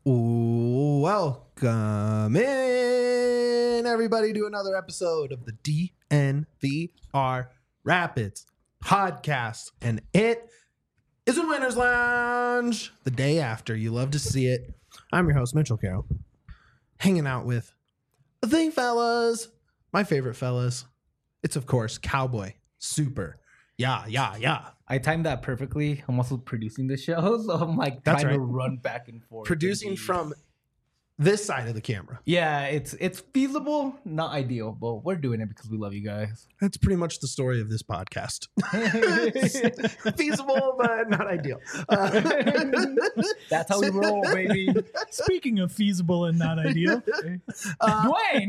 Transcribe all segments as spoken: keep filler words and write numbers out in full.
Welcome in, everybody, to another episode of the D N V R Rapids podcast. And it is a Winner's Lounge the day after. You love to see it. I'm your host, Mitchell Carroll, hanging out with the fellas, my favorite fellas. It's, of course, Cowboy Super. Yeah, yeah, yeah. I timed that perfectly. I'm also producing the show, so I'm like That's trying right. to run back and forth. Producing Indeed. from this side of the camera. Yeah, it's it's feasible, not ideal, but we're doing it because we love you guys. That's pretty much the story of this podcast. Feasible, but not ideal. Uh, That's how we roll, baby. Speaking of feasible and not ideal, uh, Dwayne!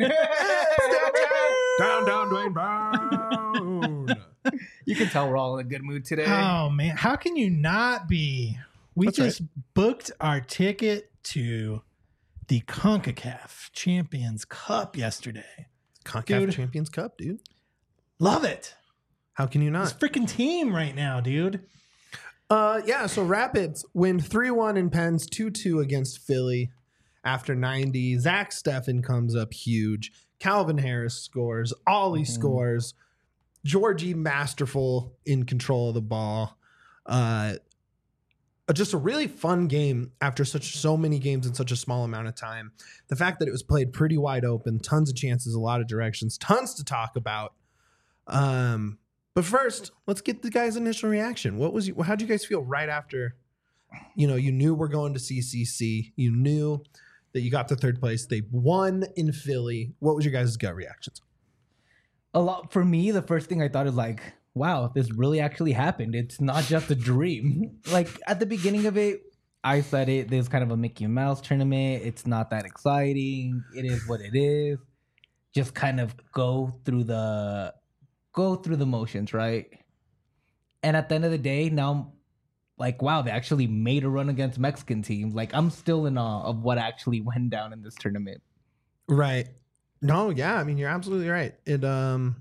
down, down, Dwayne Brown. You can tell we're all in a good mood today. oh man, how can you not be? We That's just booked our ticket to the CONCACAF Champions Cup yesterday. CONCACAF Dude. Champions Cup, dude. Love it. How can you This not? freaking team right now, dude. Uh, yeah, so Rapids win three one in Pens, two two against Philly after ninety. Zach Steffen comes up huge. Calvin Harris scores. Ollie Mhm. scores. Georgie masterful in control of the ball. Uh, just a really fun game after such so many games in such a small amount of time. The fact that it was played pretty wide open, tons of chances, a lot of directions, tons to talk about. Um, but first, let's get the guys' initial reaction. What was you? How'd you guys feel right after? You know, you knew we're going to C C C. You knew that you got to third place. They won in Philly. What was your guys' gut reactions? A lot for me, the first thing I thought is like, wow, this really actually happened. It's not just a dream. Like at the beginning of it, I said it. There's kind of a Mickey Mouse tournament. It's not that exciting. It is what it is. Just kind of go through the go through the motions, right? And at the end of the day, now I'm like, wow, they actually made a run against Mexican teams. Like I'm still in awe of what actually went down in this tournament. Right. No, yeah, I mean you're absolutely right. It um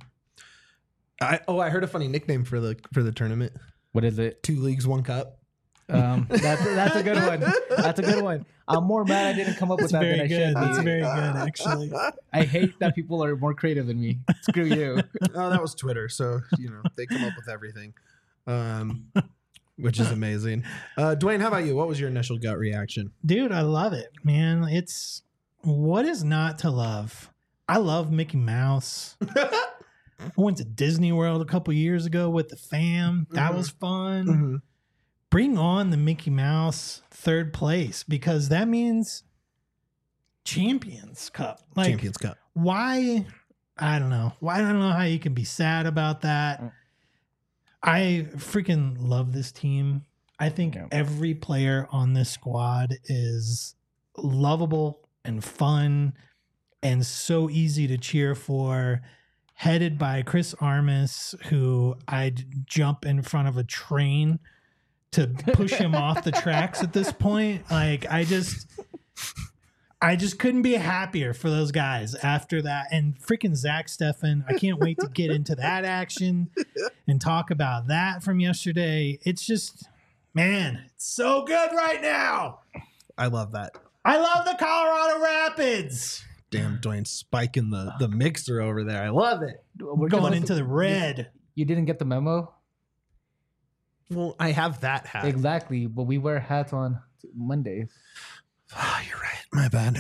I oh I heard a funny nickname for the for the tournament. What is it? Two leagues, one cup. Um, that's that's a good one. That's a good one. I'm more mad I didn't come up with That's that than very I good. should That's be. very good, actually. I hate that people are more creative than me. Screw you. Oh, that was Twitter, so you know they come up with everything. Um which is amazing. Uh Dwayne, how about you? What was your initial gut reaction? Dude, I love it, man. It's what is not to love? I love Mickey Mouse. I went to Disney World a couple years ago with the fam. That Mhm. was fun. Mm-hmm. Bring on the Mickey Mouse third place because that means Champions Cup. Like, Champions Cup. why? I don't know. Why I don't know how you can be sad about that. Mm. I freaking love this team. I think Yeah. every player on this squad is lovable and fun and so easy to cheer for. Headed by Chris Armas, who I'd jump in front of a train to push him off the tracks at this point. Like I just I just couldn't be happier for those guys after that. And freaking Zach Steffen, I can't wait to get into that action and talk about that from yesterday. It's just, man, it's so good right now. I love that. I love the Colorado Rapids. Damn, Dwayne spiking the the mixer over there. I love it. We're Going just- into the red. You didn't get the memo? Well, I have that hat. Exactly, but we wear hats on Mondays. Oh, you're right. My bad.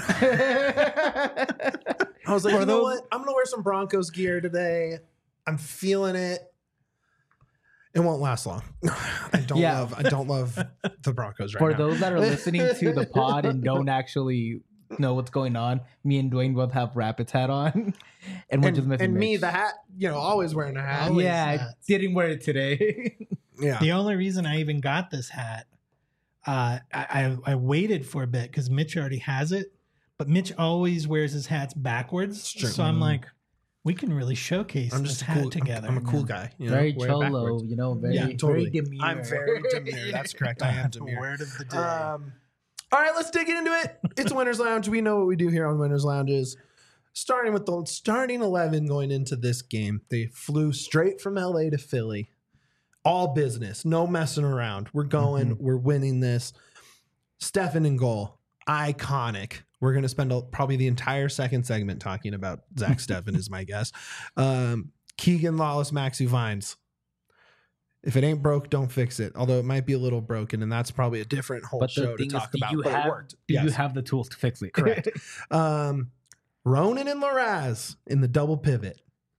I was like, For you know those- what? I'm gonna wear some Broncos gear today. I'm feeling it. It won't last long. I don't Yeah. love. I don't love the Broncos right For now. those that are listening to the pod and don't actually know what's going on, me and Dwayne both have Rapids hat on, and we're and just missing and me, Mitch. the hat. You know, always wearing a hat. Always yeah, I hats. didn't wear it today. Yeah. The only reason I even got this hat, uh, I, I, I waited for a bit because Mitch already has it, but Mitch always wears his hats backwards. It's true. So I'm like, we can really showcase I'm this just a hat cool. I'm- together. I'm, a cool guy. You know, very wear it cholo, backwards. you know, very, Yeah, totally. very demure. I'm very demure. That's correct. I am demure. Word of the day. Um, all right, let's dig into it. It's Winners Lounge. We know what we do here on Winners Lounges. Starting with the starting eleven going into this game, they flew straight from L A to Philly. All business, no messing around. We're going. Mhm. We're winning this. Steffen in goal. iconic. We're going to spend a, probably the entire second segment talking about Zach Steffen is my guess. Um, Keegan Lawless, Maxi Vines. If it ain't broke, don't fix it. Although it might be a little broken, and that's probably a different whole But show the to thing is, talk do about. you But have it worked. do Yes. you have the tools to fix it? Correct. um, Ronan and Laraz in the double pivot.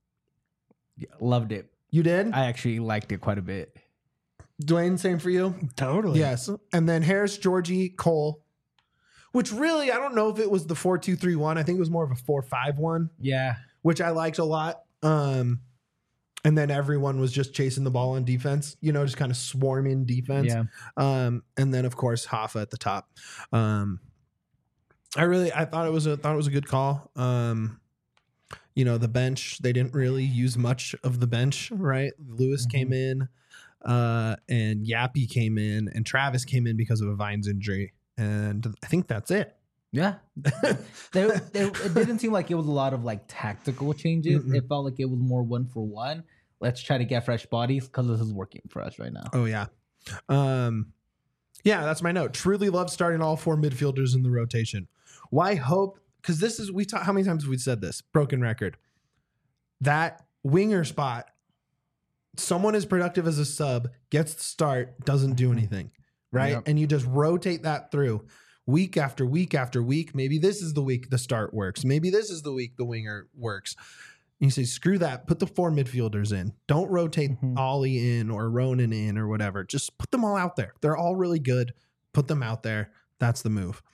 Loved it. You did? I actually liked it quite a bit. Dwayne, same for you? Totally. Yes. And then Harris, Georgie, Cole, which really, I don't know if it was the four two three one. I think it was more of a four five one, Yeah. which I liked a lot. Um, and then everyone was just chasing the ball on defense, you know, just kind of swarming defense. Yeah. Um, and then of course Hoffa at the top. Um, I really, I thought it was a thought it was a good call. Um, you know, the bench, they didn't really use much of the bench, right? Lewis Mm-hmm. came in, uh, and Yappy came in, and Travis came in because of a Vines injury, and I think that's it. Yeah. there, there, it didn't seem like it was a lot of like tactical changes. Mm-mm. It felt like it was more one for one. Let's try to get fresh bodies because this is working for us right now. Oh yeah, um, yeah. That's my note. Truly love starting all four midfielders in the rotation. Why hope? Because this is we talk. How many times have we said this? Broken record. That winger spot. Someone as productive as a sub gets the start, doesn't do anything, right? Yep. And you just rotate that through week after week after week. Maybe this is the week the start works. Maybe this is the week the winger works. And you say, screw that. Put the four midfielders in. Don't rotate Mhm. Ollie in or Ronan in or whatever. Just put them all out there. They're all really good. Put them out there. That's the move.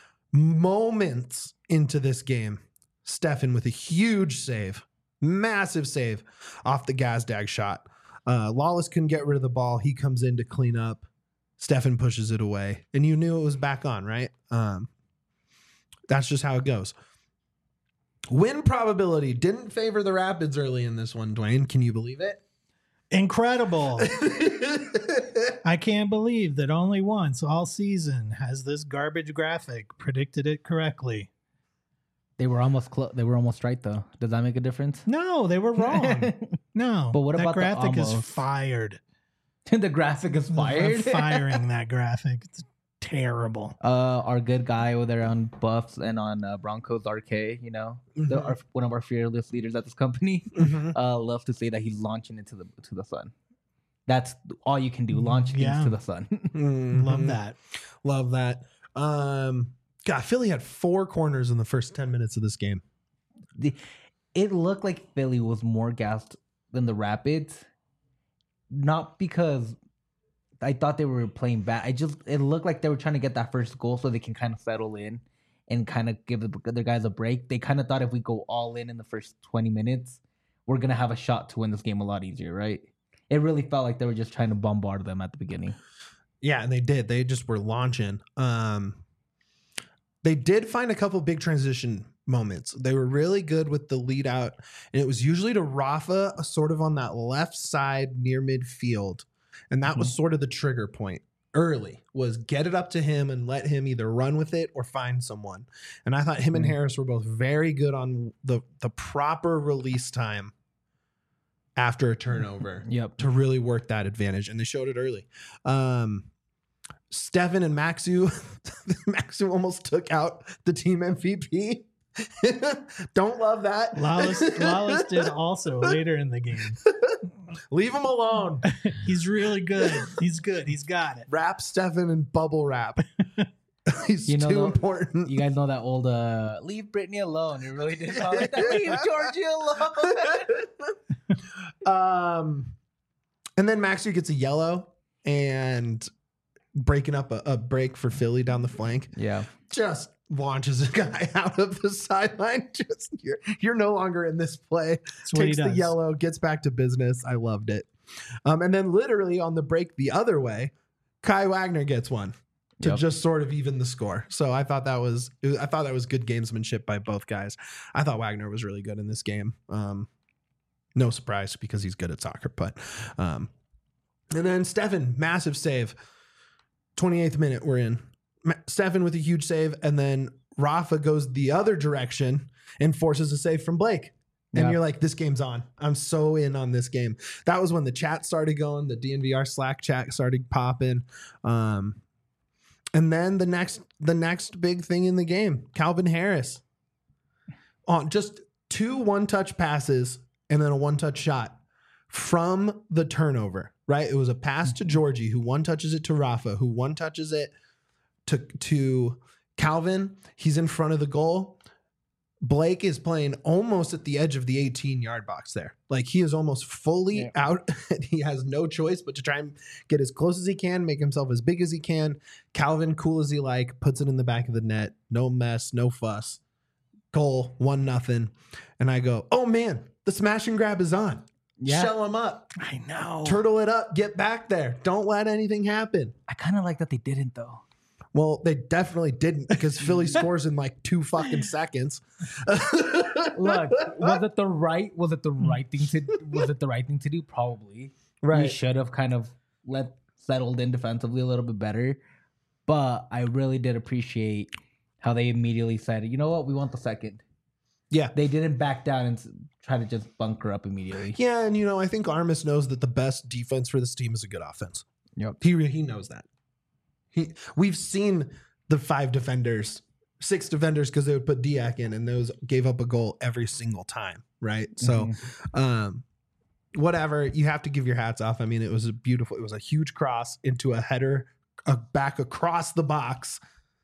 Moments into this game, Steffen with a huge save, massive save off the Gazdag shot. Uh, Lawless couldn't get rid of the ball. He comes in to clean up. Steffen pushes it away, and you knew it was back on, right? Um, that's just how it goes. Win probability didn't favor the Rapids early in this one, Dwayne. Can you believe it? Incredible. I can't believe that only once all season has this garbage graphic predicted it correctly. They were almost clo- they were almost right though. Does that make a difference? No, they were wrong. No. But what that about the graphic is almost? fired. The graphic is I'm fired. firing that graphic. It's terrible. Uh, our good guy over there on Buffs and on uh, Broncos R K, you know, the, Mhm. our, one of our fearless leaders at this company, Mhm. uh, loves to say that he's launching into the to the sun. That's all you can do. Launch things Yeah. to the sun. Love Mhm. that. Love that. Um, God, Philly had four corners in the first ten minutes of this game. The, it looked like Philly was more gassed than the Rapids, not because I thought they were playing bad. I just it looked like they were trying to get that first goal so they can kind of settle in and kind of give the other guys a break. They kind of thought if we go all in in the first twenty minutes, we're gonna have a shot to win this game a lot easier, right? It really felt like they were just trying to bombard them at the beginning. Yeah, and they did. They just were launching. Um, they did find a couple big transition moments. They were really good with the lead out, and it was usually to Rafa, sort of on that left side near midfield, and that was sort of the trigger point. Early was get it up to him and let him either run with it or find someone. And I thought him and Mhm. Harris were both very good on the the proper release time after a turnover Yep. to really work that advantage, and they showed it early. Um, Steffen and Maxu, Maxu almost took out the team M V P. Don't love that. Lawless, Lawless did also later in the game. Leave him alone. He's really good. He's good. He's got it. Wrap Steffen and bubble wrap. He's You know, too though, important. You guys know that old uh, "Leave Britney alone." It really did sound like that. Leave Georgia alone. um, and then Maxu gets a yellow and breaking up a, a break for Philly down the flank. Yeah. Just launches a guy out of the sideline. Just you're you're no longer in this play. That's what he Takes the does. yellow, gets back to business. I loved it. Um, and then literally on the break the other way, Kai Wagner gets one to Yep. just sort of even the score. So I thought that was it was- I thought that was good gamesmanship by both guys. I thought Wagner was really good in this game. Um, no surprise because he's good at soccer, but um, and then Steffen, massive save. twenty-eighth minute we're in. Ma- Steffen with a huge save, and then Rafa goes the other direction and forces a save from Blake. And Yeah. you're like, this game's on. I'm so in on this game. That was when the chat started going. The D N V R Slack chat started popping. Um, And then the next the next big thing in the game, Calvin Harris. On just two one-touch passes and then a one-touch shot from the turnover, right? It was a pass to Georgie, who one touches it to Rafa, who one touches it to, to Calvin. He's in front of the goal. Blake is playing almost at the edge of the eighteen-yard box there. Like, he is almost fully Yeah. out. He has no choice but to try and get as close as he can, make himself as big as he can. Calvin, cool as he like, puts it in the back of the net. No mess, no fuss. Goal, one nothing. And I go, oh, man, the smash and grab is on. Yeah. Shell him up. I know. Turtle it up. Get back there. Don't let anything happen. I kind of like that they didn't though. Well, they definitely didn't because Philly scores in like two fucking seconds. Look, was it the right? Was it the right thing to? Was it the right thing to do? Probably. We Right. should have kind of let settled in defensively a little bit better. But I really did appreciate how they immediately said, "You know what? We want the second." Yeah. They didn't back down and s- try to just bunker up immediately. Yeah, and you know, I think Armis knows that the best defense for this team is a good offense. Yep. He he knows that. He we've seen the five defenders, six defenders, because they would put Diak in, and those gave up a goal every single time, right? So, um, whatever, you have to give your hats off. I mean, it was a beautiful. It was a huge cross into a header, a back across the box,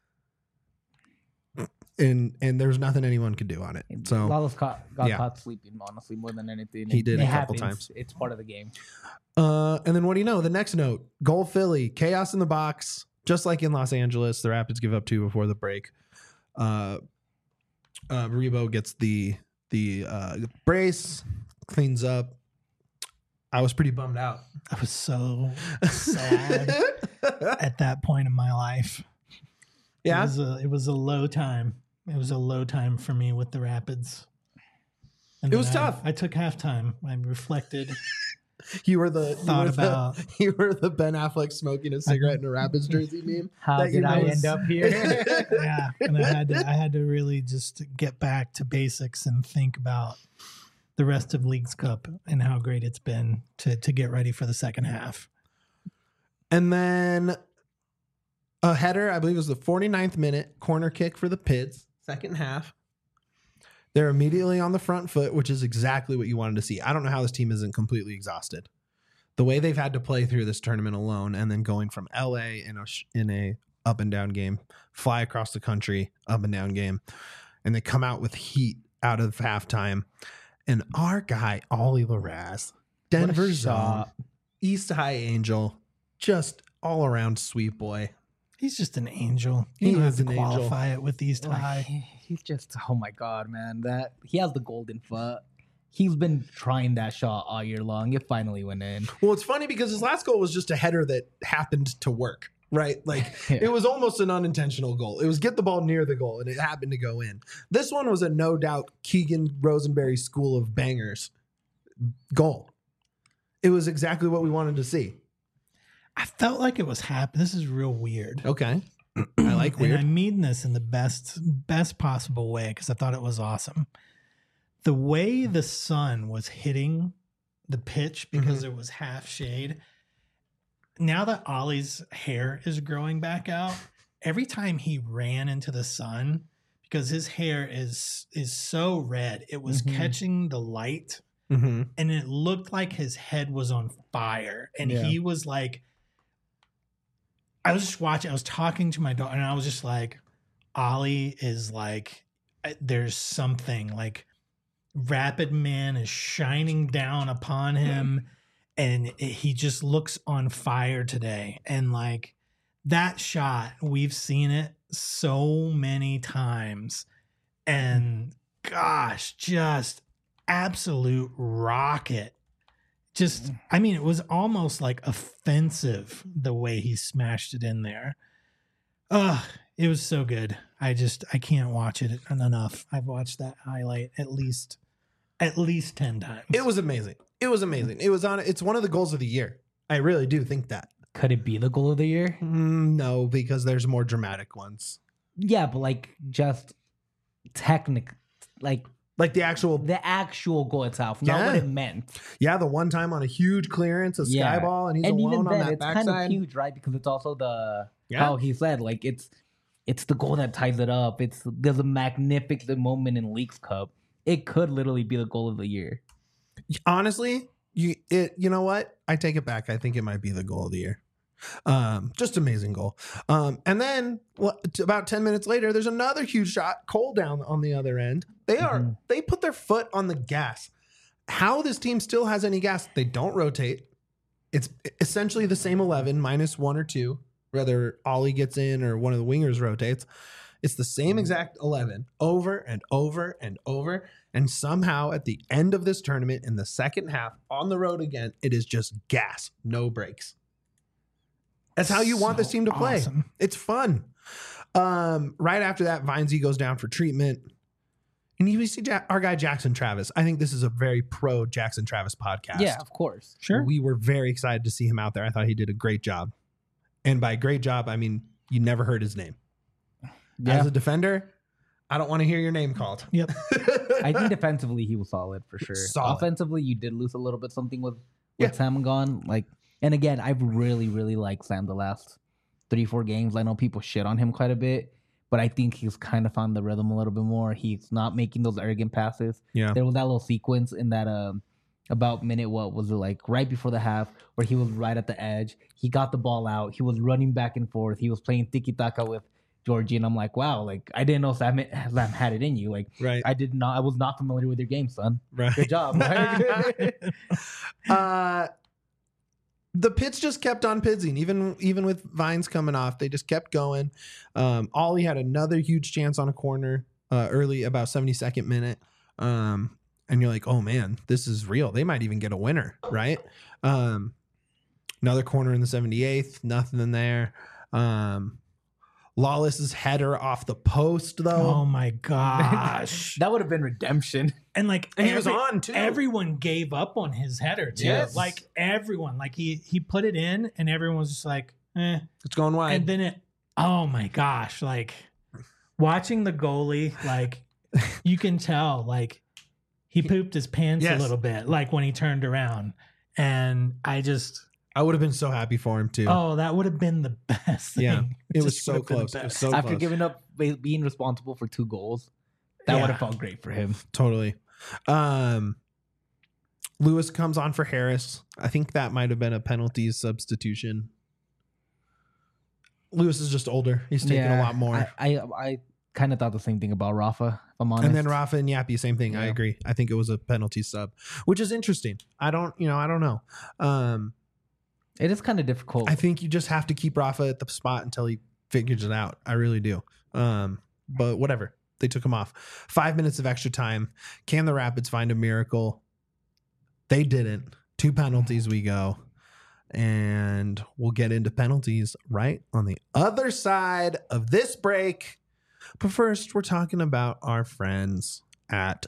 and and there's nothing anyone could do on it. So Lawless caught, got yeah. caught sleeping, honestly, more than anything. He It- did it a couple happens. times. It's part of the game. Uh, and then what do you know? The next note, goal Philly, chaos in the box, just like in Los Angeles. The Rapids give up two before the break. Uh, uh, Rebo gets the the uh, brace, cleans up. I was pretty bummed out. I was so sad at that point in my life. It Yeah, was a it was a low time. It was a low time for me with the Rapids. And It then was I- tough. I took halftime. I reflected. you were the you Thought were about- the, you were the Ben Affleck smoking a cigarette in a Rapids jersey meme. How That you did I know end is- up here? Yeah, and I had to I had to really just get back to basics and think about the rest of Leagues Cup and how great it's been to to get ready for the second half. And then a header, I believe it was the forty-ninth minute corner kick for the Pids, second half. They're immediately on the front foot, which is exactly what you wanted to see. I don't know how this team isn't completely exhausted. The way they've had to play through this tournament alone, and then going from L A in a sh- in a up and down game, fly across the country, up and down game, and they come out with heat out of halftime. And our guy, Ollie Larraz, Denver Zone, shot. East High Angel, just all around sweet boy. He's just an angel. He You don't is have to an angel. qualify it with East Like, High. he- he's just, oh my God, man. That he has the golden foot. He's been trying that shot all year long. It finally went in. Well, it's funny because his last goal was just a header that happened to work, right? Like Yeah. it was almost an unintentional goal. It was get the ball near the goal and it happened to go in. This one was a no doubt Keegan Rosenberry school of bangers goal. It was exactly what we wanted to see. I felt like it was happening. This is real weird. Okay. I like And I weird. mean this in the best best possible way because I thought it was awesome. The way the sun was hitting the pitch because Mhm. it was half shade. Now that Ollie's hair is growing back out, every time he ran into the sun, because his hair is is so red, it was Mhm. catching the light Mm-hmm. and it looked like his head was on fire. And Yeah. he was like, I was just watching, I was talking to my daughter, and I was just like, Ollie is like, uh, there's something like Rapid Man is shining down upon him, and it, he just looks on fire today. And like that shot, we've seen it so many times. And gosh, just absolute rocket. Just, I mean, it was almost like offensive the way he smashed it in there. Ugh, it was so good. I just, I can't watch it enough. I've watched that highlight at least, at least ten times. It was amazing. It was amazing. It was on. It's one of the goals of the year. I really do think that. Could it be the goal of the year? Mm, no, because there's more dramatic ones. Yeah, but like just technic, like Like the actual, the actual goal itself, not Yeah. what it meant. yeah, the one time on a huge clearance, a sky Yeah. ball, and he's And alone even on then, that it's kind of backside. huge, right? Because it's also the Yeah. how he said, like it's it's the goal that ties it up. It's there's a magnificent moment in Leagues Cup. It could literally be the goal of the year. Honestly, you it you know what? I take it back. I think it might be the goal of the year. Um, just amazing goal. Um, and then well, t- about ten minutes later, there's another huge shot. Cole down on the other end. They are Mhm. they put their foot on the gas. How this team still has any gas? They don't rotate. It's essentially the same eleven minus one or two, whether Ollie gets in or one of the wingers rotates. It's the same exact eleven over and over and over. And somehow at the end of this tournament, in the second half, on the road again, it is just gas, no breaks. That's how you want So this team to play. awesome. It's fun. Um, right after that, Vinesy goes down for treatment. And you see Ja- our guy Jackson Travis. I think this is a very pro Jackson Travis podcast. Yeah, of course. Sure. We were very excited to see him out there. I thought he did a great job. And by great job, I mean you never heard his name. Yeah. As a defender, I don't want to hear your name called. Yep. I think defensively he was solid for sure. Solid. Offensively, you did lose a little bit something with with Yeah. Sam gone. Like, and again, I've really, really liked Sam the last three, four games. I know people shit on him quite a bit, but I think he's kind of found the rhythm a little bit more. He's not making those arrogant passes. Yeah. There was that little sequence in that um about minute, what was it, like right before the half, where he was right at the edge. He got the ball out. He was running back and forth. He was playing tiki taka with Georgie, and I'm like, wow, like I didn't know Sam, Sam had it in you. Like Right. I did not, I was not familiar with your game, son. Right. Good job. Right? uh, the Pits just kept on pizzing, even even with Vines coming off. They just kept going. Um, Ollie had another huge chance on a corner uh, early, about seventy-second minute. Um, and you're like, oh man, this is real. They might even get a winner, right? Um, another corner in the seventy-eighth, nothing in there. Um, Lawless's header off the post, Oh though. my gosh. That would have been redemption. And like And he was every- on, too. Everyone gave up on his header too. Yes. Like everyone. Like he he put it in and everyone was just like, eh. It's going wide. And then it oh my gosh, like watching the goalie, like you can tell like he pooped his pants Yes. a little bit, like when he turned around. And I just I would have been so happy for him, too. oh, that would have been the best thing. Yeah, it was just so would have been the close. It was best. so After close. giving up be- being responsible for two goals, that Yeah. would have felt great for him. Totally. Um, Lewis comes on for Harris. I think that might have been a penalty substitution. Lewis is just older. He's taking a lot more. I I, I kind of thought the same thing about Rafa. If I'm honest. And then Rafa and Yappy, same thing. I Yeah. agree. I think it was a penalty sub, which is interesting. I don't, you know, I don't know. Um, it is kind of difficult. I think you just have to keep Rafa at the spot until he figures it out. I really do. Um, but whatever. They took him off. Five minutes of extra time. Can the Rapids find a miracle? They didn't. Two penalties we go. And we'll get into penalties right on the other side of this break. But first, we're talking about our friends at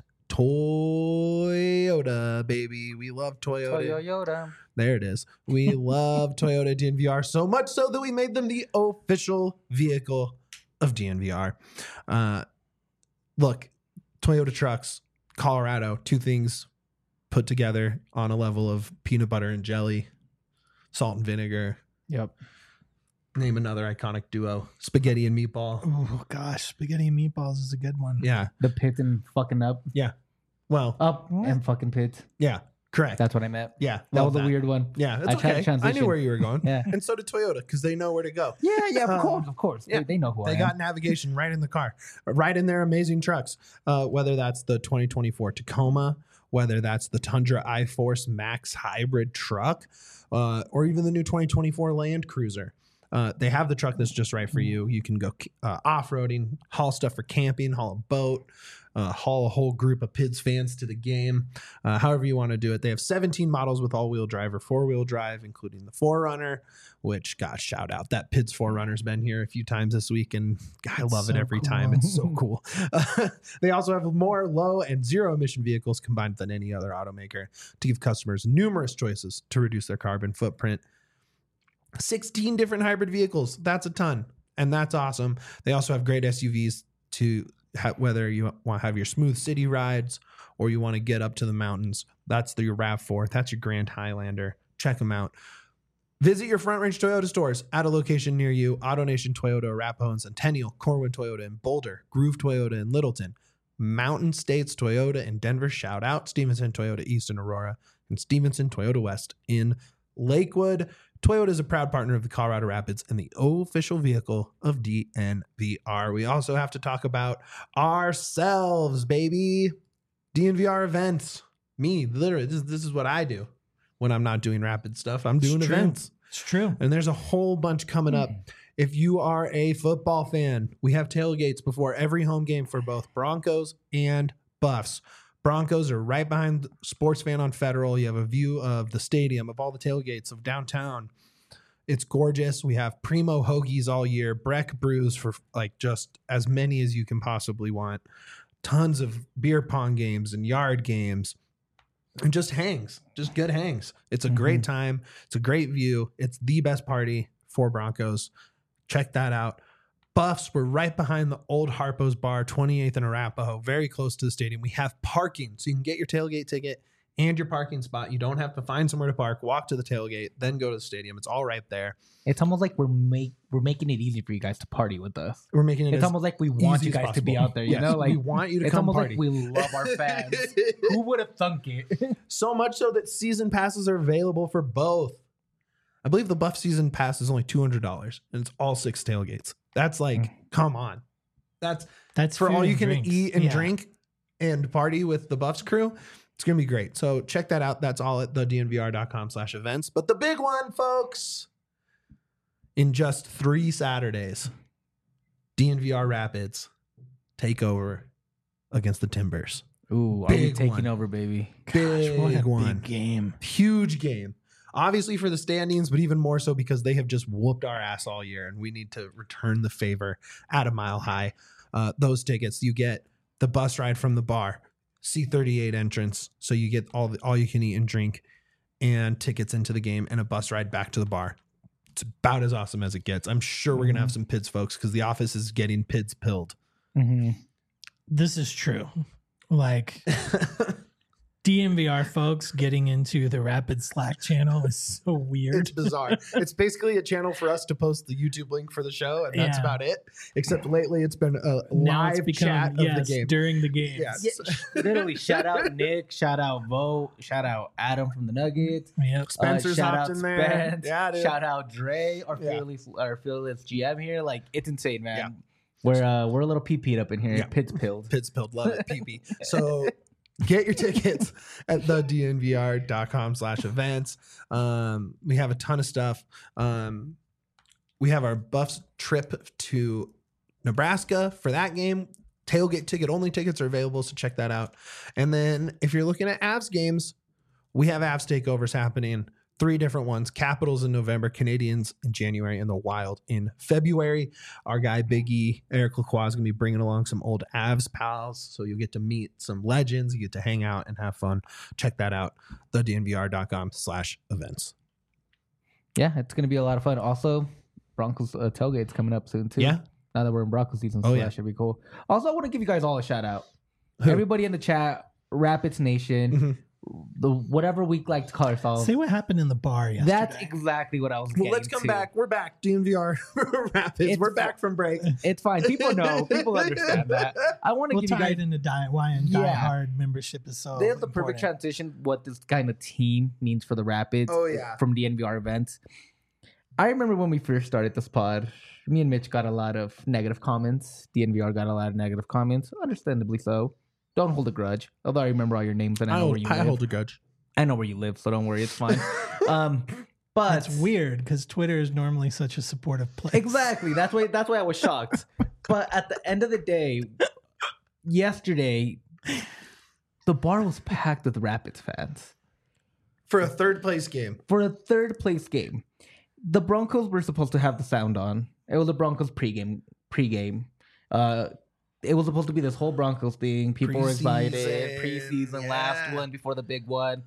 Toyota, baby. We love Toyota. Toyota. There it is. We love Toyota D N V R so much so that we made them the official vehicle of D N V R. Uh, look, Toyota trucks, Colorado, two things put together on a level of peanut butter and jelly, salt and vinegar. Yep. Name another iconic duo, spaghetti and meatball. Oh gosh, spaghetti and meatballs is a good one. Yeah. The pit and fucking up, Well, up What? and fucking pit. yeah, correct. That's what I meant. yeah. That love was a weird one. Yeah, it's I tried to okay. I transition. knew where you were going. Yeah. And so did Toyota because they know where to go. Yeah, yeah, of Uh, course, of course. yeah. They, they know who I They am. got navigation right in the car, right in their amazing trucks. Uh, whether that's the twenty twenty-four Tacoma, whether that's the Tundra iForce Max hybrid truck, uh, or even the new twenty twenty-four Land Cruiser. Uh, they have the truck that's just right for you. You can go uh, off-roading, haul stuff for camping, haul a boat, uh, haul a whole group of P I D S fans to the game, uh, however you want to do it. They have seventeen models with all-wheel drive or four-wheel drive, including the four runner, which, gosh, shout out. That P I D S four runner's been here a few times this week, and I It's love it so every cool. time. It's so cool. Uh, they also have more low and zero-emission vehicles combined than any other automaker to give customers numerous choices to reduce their carbon footprint. sixteen different hybrid vehicles. That's a ton. And that's awesome. They also have great S U Vs to ha- whether you want to have your smooth city rides or you want to get up to the mountains. That's the, your RAV four. That's your Grand Highlander. Check them out. Visit your Front Range Toyota stores at a location near you. AutoNation Toyota, Arapahoe and Centennial, Corwin Toyota in Boulder, Groove Toyota in Littleton, Mountain States Toyota in Denver, shout out Stevenson Toyota East in Aurora, and Stevenson Toyota West in Lakewood. Toyota is a proud partner of the Colorado Rapids and the official vehicle of D N V R. We also have to talk about ourselves, baby. D N V R events. Me, literally, this, this is what I do when I'm not doing rapid stuff. I'm doing It's true. events. It's true. And there's a whole bunch coming up. If you are a football fan, we have tailgates before every home game for both Broncos and Buffs. Broncos are right behind Sports Fan on Federal. You have a view of the stadium, of all the tailgates of downtown. It's gorgeous. We have primo hoagies all year, Breck brews for like just as many as you can possibly want. Tons of beer pong games and yard games. And just hangs, just good hangs. It's a Mm-hmm. great time. It's a great view. It's the best party for Broncos. Check that out. Buffs, we're right behind the old Harpo's Bar, twenty-eighth and Arapahoe, very close to the stadium. We have parking, so you can get your tailgate ticket and your parking spot. You don't have to find somewhere to park, walk to the tailgate, then go to the stadium. It's all right there. It's almost like we're make we're making it easy for you guys to party with us. We're making it It's as almost like we want easy you as guys to be possible. out there. You Yes, know, like we want you to it's come almost party. like we love our fans. Who would have thunk it? So much so that season passes are available for both. I believe the Buff season pass is only two hundred dollars, and it's all six tailgates. That's like, Mm. come on. That's That's for food all you and can drinks. eat and Yeah. drink and party with the Buffs crew. It's going to be great. So check that out. That's all at the D N V R dot com slash events. But the big one, folks, in just three Saturdays, D N V R Rapids take over against the Timbers. Ooh, are we Big taking one. over, baby? Big What a one. big game. Huge game. Obviously for the standings, but even more so because they have just whooped our ass all year and we need to return the favor at a mile high. Uh, those tickets, you get the bus ride from the bar, C thirty-eight entrance. So you get all the, all you can eat and drink and tickets into the game and a bus ride back to the bar. It's about as awesome as it gets. I'm sure we're going to have some P I D S folks because the office is getting P I D S pilled. Mm-hmm. This is true. Like D N V R folks getting into the Rapid Slack channel is so weird. It's bizarre. It's basically a channel for us to post the YouTube link for the show, and that's Yeah. about it. Except lately, it's been a Now it's live become, chat of yes, the game. during the game. Yes. Literally, shout out Nick, shout out Vote, shout out Adam from the Nuggets. Yep. Spencer's uh, shout hopped out in there. Spence, Yeah, dude. shout out Dre, our Yeah. fearless, our fearless G M here. Like it's insane, man. Yeah. We're uh, we're a little pee peed up in here. Yeah. Pitts pilled. P I D S pilled. Love it. P P. So get your tickets at the D N V R dot com slash events. Um, we have a ton of stuff. Um, we have our Buffs trip to Nebraska for that game. Tailgate ticket only tickets are available, so check that out. And then if you're looking at Avs games, we have Avs takeovers happening. Three different ones: Capitals in November, Canadians in January, and the Wild in February. Our guy Big E, Eric Lacroix, is going to be bringing along some old Avs pals, so you'll get to meet some legends. You get to hang out and have fun. Check that out, the D N V R dot com slash events. Yeah, it's gonna be a lot of fun. Also, Broncos uh, tailgate's coming up soon too. Yeah. Now that we're in Broncos season, so Oh, that yeah. should be cool. Also, I want to give you guys all a shout out. Who? Everybody in the chat, Rapids Nation, Mhm. the whatever we like to call ourselves. Say what happened in the bar yesterday. That's exactly what I was. Well, getting let's come to. back. We're back. D N V R Rapids. It's- We're back from break. It's fine. People know. People understand that. I want to We'll give you tie guys. it into die, why and Yeah. Die Hard membership is so There's the perfect important. transition. What this kind of team means for the Rapids. Oh, yeah. From D N V R events. I remember when we first started this pod. Me and Mitch got a lot of negative comments. D N V R got a lot of negative comments, understandably so. Don't hold a grudge. Although I remember all your names and I I know hold, where you I live. hold a grudge. I know where you live, so don't worry, it's fine. um, but That's weird because Twitter is normally such a supportive place. exactly. That's why. That's why I was shocked. But at the end of the day, yesterday, the bar was packed with Rapids fans For a third place game. for a third place game. The Broncos were supposed to have the sound on. It was a Broncos pregame. Pregame. Uh, it was supposed to be this whole Broncos thing. People were excited. Preseason, Preseason, yeah. last one before the big one,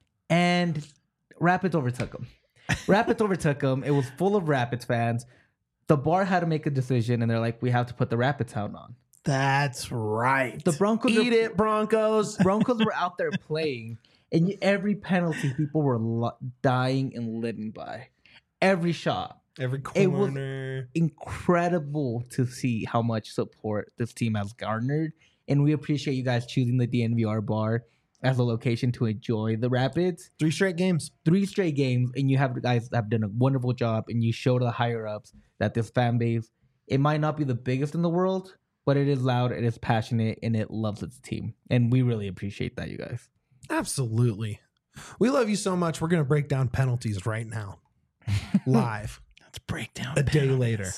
and Rapids overtook them. Rapids overtook them. It was full of Rapids fans. The bar had to make a decision, and they're like, "We have to put the Rapids sound on." That's right. The Broncos, Eat are, it, Broncos. Broncos were out there playing, and every penalty people were lo- dying and living by. every shot. Every It was- corner. Incredible to see how much support this team has garnered. And we appreciate you guys choosing the D N V R bar as a location to enjoy the Rapids. Three straight games. Three straight games, and you have guys have done a wonderful job, and you show to the higher ups that this fan base, it might not be the biggest in the world, but it is loud, it is passionate, and it loves its team. And we really appreciate that, you guys. Absolutely. We love you so much. We're going to break down penalties right now. Live. Let's break down A day penalties. later.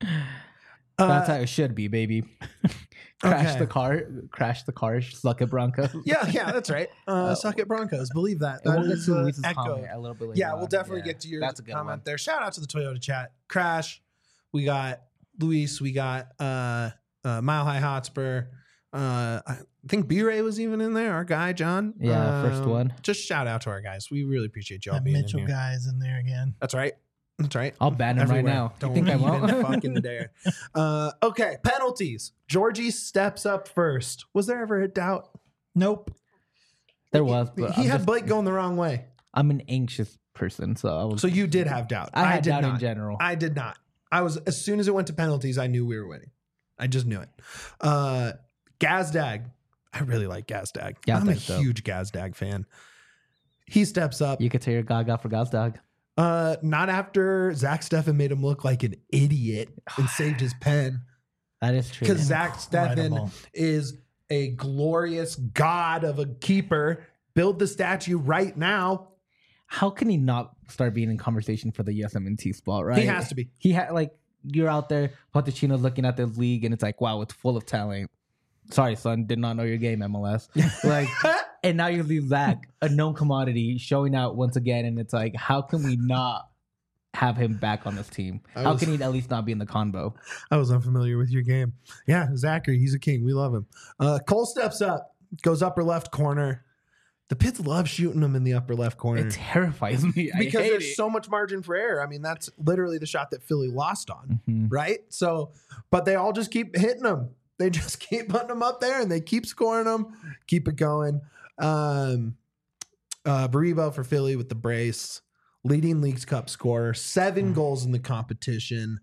That's Uh, how it should be, baby. Crash okay. the car, crash the car, suck it, Broncos. Yeah, yeah, that's right. Uh, Uh, suck it, Broncos. Believe that. And That we'll get is, to uh, Luis's echo. comment a little bit later. Yeah, we'll on. definitely Yeah, get to your that's a good comment one. there. Shout out to the Toyota chat. Crash. We got Luis. We got uh, uh, Mile High Hotspur. Uh, I think B-Ray was even in there. Our guy, John. Yeah, first Um, one. Just shout out to our guys. We really appreciate y'all That being Mitchell in here. guy's in there again. That's right. That's right. I'll ban him Everywhere. right now. Don't you think I even won't? fucking dare. Uh, okay, penalties. Georgie steps up first. Was there ever a doubt? Nope. There was, but he I'm, had just- Blake going the wrong way. I'm an anxious person, so I was. So you did have doubt. I had did doubt not. in general. I did not. I was as soon as it went to penalties, I knew we were winning. I just knew it. Uh, Gazdag. I really like Gazdag. I'm a Gazdag's dope. huge Gazdag fan. He steps up. You could say your Gaga for Gazdog. Uh, not after Zach Steffen made him look like an idiot and saved his pen. That is true. Because Zach Steffen Incredible. is a glorious god of a keeper. Build the statue right now. How can he not start being in conversation for the U S M N T spot? Right? He has to be. He had like you're out there, Pochettino's looking at this league, and it's like, wow, it's full of talent. Sorry, son, did not know your game, M L S. Like, and now you leave Zach, a known commodity, showing out once again, and it's like, how can we not have him back on this team? I How was- can he at least not be in the convo? I was unfamiliar with your game. Yeah, Zachary, he's a king. We love him. Uh, Cole steps up, goes upper left corner. The Pits love shooting him in the upper left corner It terrifies me. I because hate there's it. so much margin for error. I mean, that's literally the shot that Philly lost on, Mhm. right? So, but they all just keep hitting him. They just keep putting them up there and they keep scoring them, keep it going. Um, uh, Baribo for Philly with the brace, leading Leagues Cup scorer, seven goals in the competition.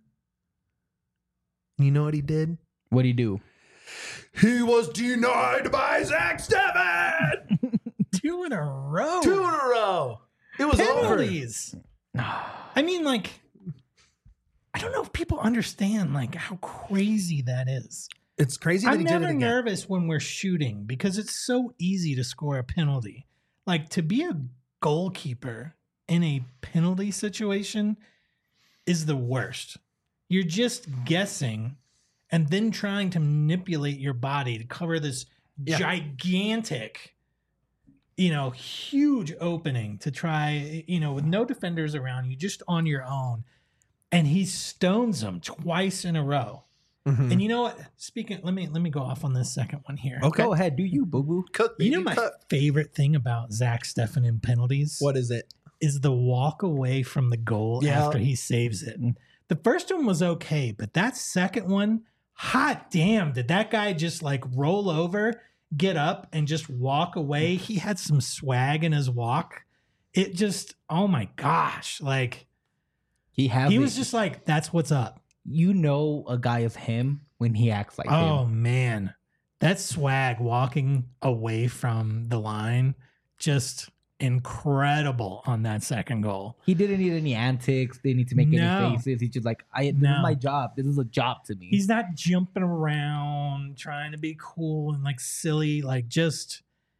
You know what he did? What do you do? He was denied by Zach Steffen. Two in a row. Two in a row. It was over. penalties. I mean, like, I don't know if people understand like how crazy that is. It's crazy that I'm he did never it again. nervous when we're shooting because it's so easy to score a penalty. Like to be a goalkeeper in a penalty situation is the worst. You're just guessing and then trying to manipulate your body to cover this Yeah. gigantic, you know, huge opening to try, you know, with no defenders around you, just on your own. And he stones them twice in a row. Mhm. And you know what? Speaking, let me let me go off on this second one here. Okay. Go ahead, do you, boo boo? Cook, You know baby, my cook. favorite thing about Zach Steffen in penalties What is it? is the walk away from the goal Yeah. after he saves it. The first one was okay, but that second one, hot damn, did that guy just like roll over, get up, and just walk away? He had some swag in his walk. It just, oh my gosh, like He has. he it. was just like, that's what's up. You know, a guy is him when he acts like Oh him. man, that swag walking away from the line, just incredible on that second goal. He didn't need any antics. They need to make No. any faces. He's just like, I. This No. is my job. This is a job to me. He's not jumping around trying to be cool and like silly, like just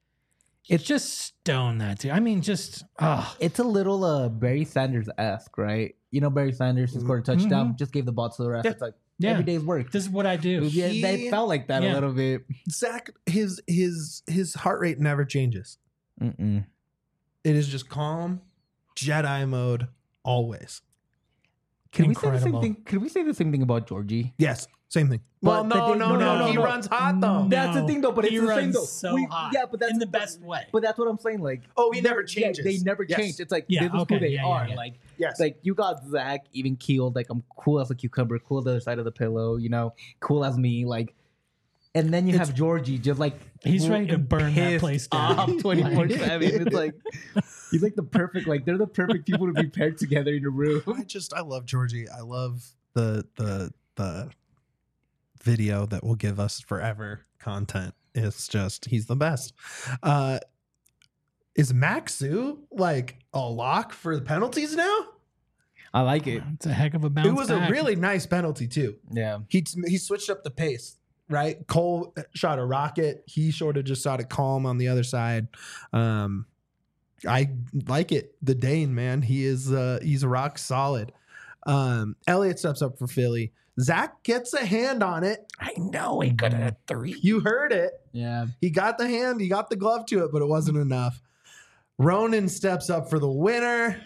it's just stone that too. I mean, just oh It's a little uh Barry Sanders esque, right? You know, Barry Sanders who scored a touchdown, just gave the ball to the ref. Yeah. It's like yeah. every day's work. This is what I do. Yeah, He- they felt like that Yeah. a little bit. Zach, his his his heart rate never changes. Mm-mm. It is just calm, Jedi mode always. Can we say the Incredible. same thing? Can we say the same thing about Georgie? Yes, same thing. But Well, no, they- no, no, no, no, He no. runs hot though. No. That's the thing, though. But He it's the same runs though. so We- hot. Yeah, but that's in the best way. But that's what I'm saying. Like, Oh, he never yeah, changes. they never Yes. change. It's like Yeah, this is okay, who they yeah, yeah, are. yeah. Like, Yes. like you got Zach even keeled. Like I'm cool as a cucumber, cool the other side of the pillow. You know, cool as me. Like And then you It's- have Georgie just like He's ready to burn that pissed place down. off twenty-four seven. It's like he's like the perfect, like they're the perfect people to be paired together in a room. I just I love Georgie. I love the the the video that will give us forever content. It's just he's the best. Uh is Maxu like a lock for the penalties now? I like it. It's a heck of a bounce It was back. a really nice penalty too. Yeah. He he switched up the pace, right? Cole shot a rocket. He sort of just shot it calm on the other side. Um, I like it. The Dane, man, he is uh, he's rock solid. Um, Elliott steps up for Philly. Zach gets a hand on it. I know he could have had three. You heard it. Yeah. He got the hand. He got the glove to it, but it wasn't enough. Ronan steps up for the winner.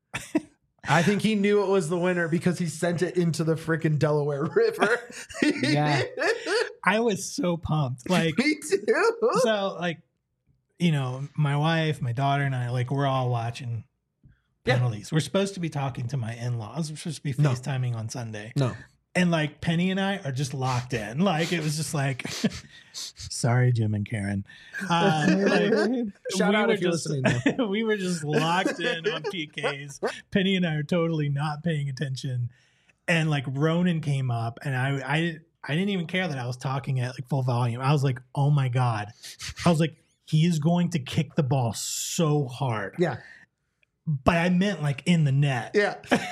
I think he knew it was the winner because he sent it into the freaking Delaware River. Yeah. I was so pumped. Like, Me too. so, like, you know, my wife, my daughter, and I, like, we're all watching Yeah. penalties. We're supposed to be talking to my in-laws. We're supposed to be No. FaceTiming on Sunday. No. And like Penny and I are just locked in. Like it was just like, sorry, Jim and Karen. Uh, like, Shout we out were if you're just- listening. we were just locked in on P Ks. Penny and I are totally not paying attention. And like Ronan came up, and I, I, I didn't even care that I was talking at like full volume. I was like, oh my god. I was like, he is going to kick the ball so hard. Yeah. But I meant like in the net. Yeah.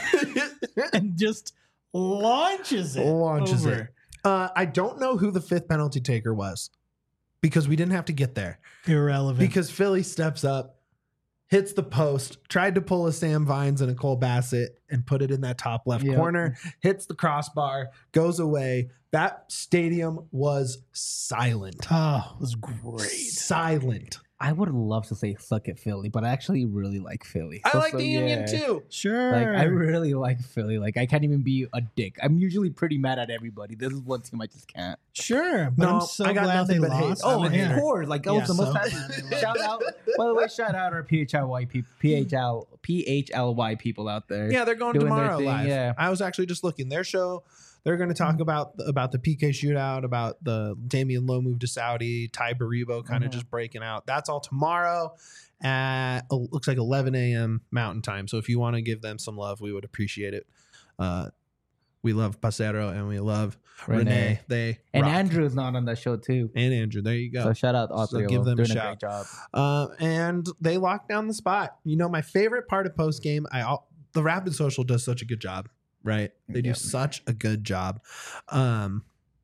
And just launches it. Launches over. it. Uh, I don't know who the fifth penalty taker was because we didn't have to get there. Irrelevant. Because Philly steps up, hits the post, tried to pull a Sam Vines and a Cole Bassett and put it in that top left Yep. corner, hits the crossbar, goes away. That stadium was silent. Oh, it was great. Silent. I would love to say suck at Philly, but I actually really like Philly. I So- like so, the Union yeah. too. Sure. Like I really like Philly. Like I can't even be a dick. I'm usually pretty mad at everybody. This is one team I just can't. Sure. But No, I'm so I got glad nothing they but hate. lost. Oh, Oh, yeah. of course. Like that Yeah, was the most so- happy. Shout out. By the way, shout out our P H L Y people, P H L P H L Y people out there. Yeah, they're going Doing their tomorrow thing, live. yeah. I was actually just looking. Their show, they're going to talk about about the P K shootout, about the Damian Lowe move to Saudi, Ty Baribo kind of Mhm. just breaking out. That's all tomorrow at uh, looks like eleven a.m. Mountain Time. So if you want to give them some love, we would appreciate it. Uh, we love Pasero and we love Renee. Renee. They And rock. Andrew is not on that show too. and Andrew. There you go. So shout out all So three give of them them. a Doing a, shout. great job. Uh, and they locked down the spot. You know, my favorite part of post game, I al- the Rapid Social does such a good job, right? They do Yep. such a good job, um,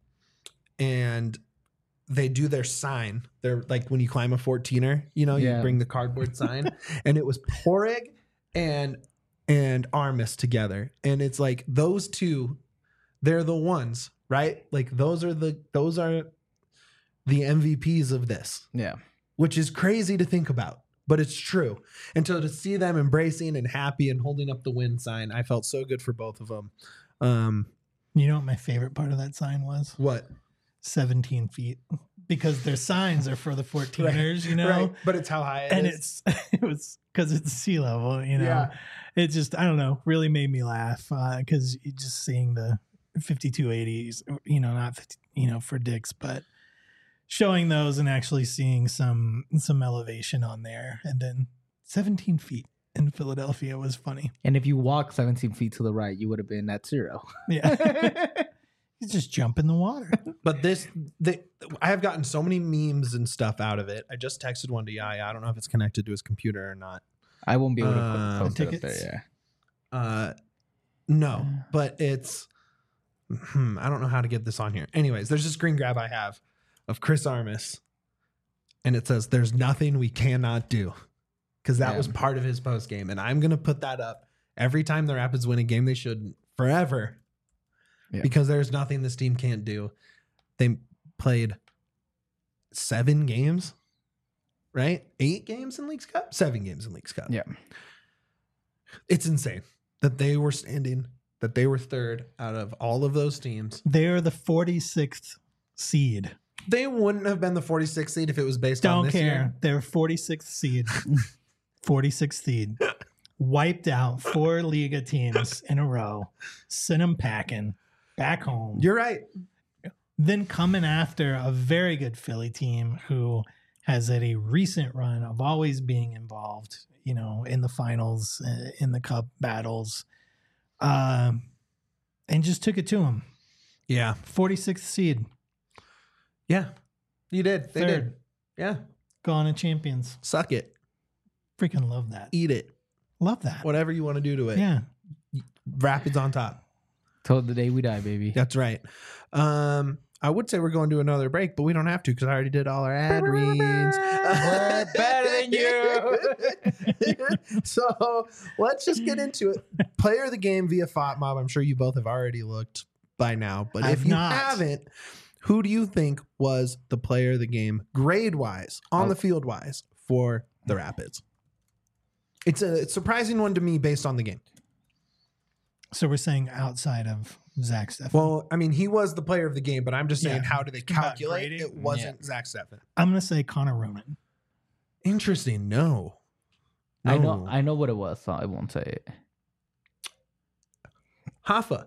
and they do their sign. They're like when you climb a fourteener, you know, you Yeah. bring the cardboard sign, and it was Porig and and Armis together, and it's like those two, they're the ones, right? Like those are the those are the M V Ps of this, Yeah. which is crazy to think about, but it's true. And so to see them embracing and happy and holding up the win sign, I felt so good for both of them. Um, You know what my favorite part of that sign was? what? seventeen feet. Because their signs are for the fourteeners, you know? Right. But it's how high it And is. it's it was because it's sea level, you know. Yeah. It just I don't know, really made me laugh because you just seeing the fifty-two eighties, you know, not fifty, you know, for dicks, but showing those and actually seeing some some elevation on there, and then seventeen feet in Philadelphia was funny. And if you walk seventeen feet to the right, you would have been at zero. Yeah, you just jump in the water. But this, the, I have gotten so many memes and stuff out of it. I just texted one to Yaya. I don't know if it's connected to his computer or not. I won't be able to Uh, put post it up tickets? there. Uh, no, but it's, hmm, I don't know how to get this on here. Anyways, there's this screen grab I have of Chris Armis, and it says, "There's nothing we cannot do," because that Yeah. was part of his post game, and I'm gonna put that up every time the Rapids win a game. They should forever, Yeah. because there's nothing this team can't do. They played seven games, right? Eight games in Leagues Cup, seven games in Leagues Cup. Yeah. It's insane that they were standing, that they were third out of all of those teams. They are the forty-sixth seed. They wouldn't have been the forty-sixth seed if it was based on Don't this care. year. They're forty-sixth seed. forty-sixth seed. Wiped out four Liga teams in a row. Sent them packing back home. You're right. then coming after a very good Philly team who has had a recent run of always being involved, you know, in the finals, uh, in the cup battles, um, and just took it to them. Yeah. forty-sixth seed. Yeah. You did. They Third. did. Yeah. Gone to champions. Suck it. Freaking love that. Eat it. Love that. Whatever you want to do to it. Yeah. Rapids on top. Till the day we die, baby. That's right. Um, I would say we're going to another break, but we don't have to because I already did all our ad reads. We're better than you. So let's just get into it. Player of the game via FOTMob. I'm sure you both have already looked by now, but I've if you not. haven't, who do you think was the player of the game grade wise, on Oh. the field wise for the Rapids? It's a it's a surprising one to me based on the game. So we're saying outside of Zach Steffen. Well, I mean, he was the player of the game, but I'm just saying, Yeah. how do they Talking about calculate? grading? It wasn't Zach Steffen. I'm going to say Connor Roman. Interesting. No. I No. know. I know what it was, so I won't say it. Hoffa.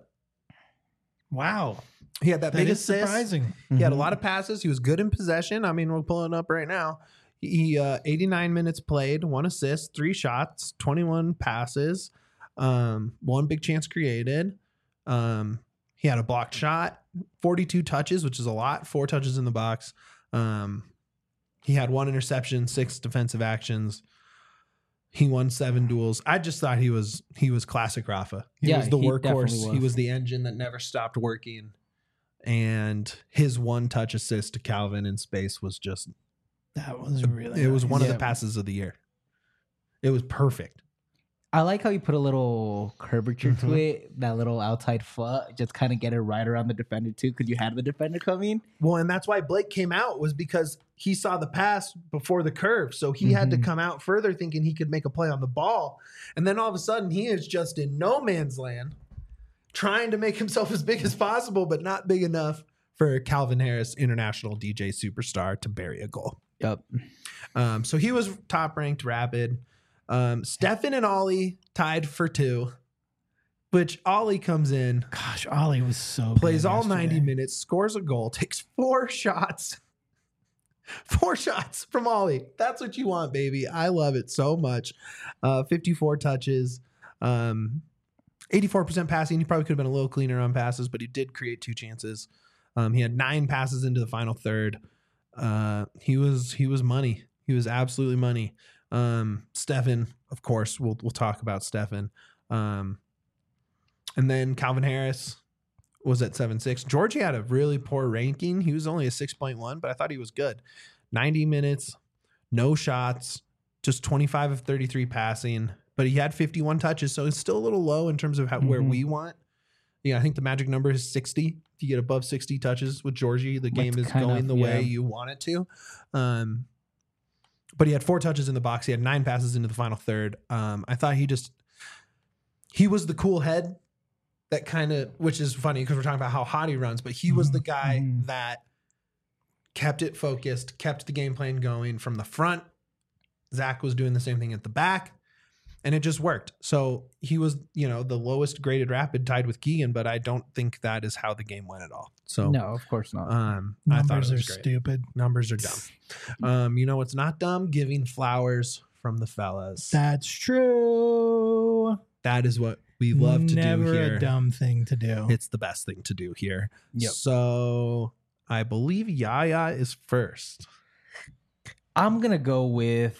Wow. He had that, That big is assist. surprising. He had a Mhm. lot of passes. He was good in possession. I mean, we're pulling up right now. He uh, eighty-nine minutes played, one assist, three shots, twenty-one passes, um, one big chance created. Um, he had a blocked shot, forty-two touches, which is a lot, four touches in the box. Um, he had one interception, six defensive actions. He won seven duels. I just thought he was he was classic Rafa. He Yeah, was the he workhorse. definitely He was. was the engine that never stopped working. And his one touch assist to Calvin in space was just That was really it was nice. one of the Yeah. passes of the year. It was perfect. I like how you put a little curvature to Mhm. it, that little outside foot, just kind of get it right around the defender too, because you had the defender coming. Well, and that's why Blake came out, was because he saw the pass before the curve. So he had to Mhm. come out further thinking he could make a play on the ball. And then all of a sudden he is just in no man's land trying to make himself as big as possible, but not big enough for Calvin Harris, international D J superstar, to bury a goal. Yep. Um, so he was top ranked Rapid. Um, Steffen and Ollie tied for two, which Ollie comes in, Gosh, Ollie was so plays good all yesterday. ninety minutes, scores a goal, takes four shots. Four shots from Ollie. That's what you want, baby. I love it so much. Uh, fifty-four touches, um, eighty-four percent passing. He probably could have been a little cleaner on passes, but he did create two chances. Um, he had nine passes into the final third. Uh, he was he was money. He was absolutely money. Um, Steffen, of course, we'll we'll talk about Steffen. Um, and then Calvin Harris was at seven six. Georgie had a really poor ranking. He was only a six point one, but I thought he was good. ninety minutes, no shots, just twenty-five of thirty-three passing, but he had fifty-one touches, so it's still a little low in terms of how, where Mhm. we want. Yeah, I think the magic number is sixty. If you get above sixty touches with Georgie, the game That's is kind going of- the way yeah. you want it to. Um, but he had four touches in the box. He had nine passes into the final third. Um, I thought he just he was the cool head that kind of, which is funny because we're talking about how hot he runs, but he was the guy Mhm. that kept it focused, kept the game plan going from the front. Zach was doing the same thing at the back, and it just worked. So he was, you know, the lowest graded Rapid, tied with Keegan, but I don't think that is how the game went at all. So No, of course not. um, I thought Numbers it are was great. stupid. Numbers are dumb. Um, you know what's not dumb? Giving flowers from the fellas. That's true. That is what we love to Never do here. a dumb thing to do. It's the best thing to do here. Yep. So I believe Yaya is first. I'm gonna go with.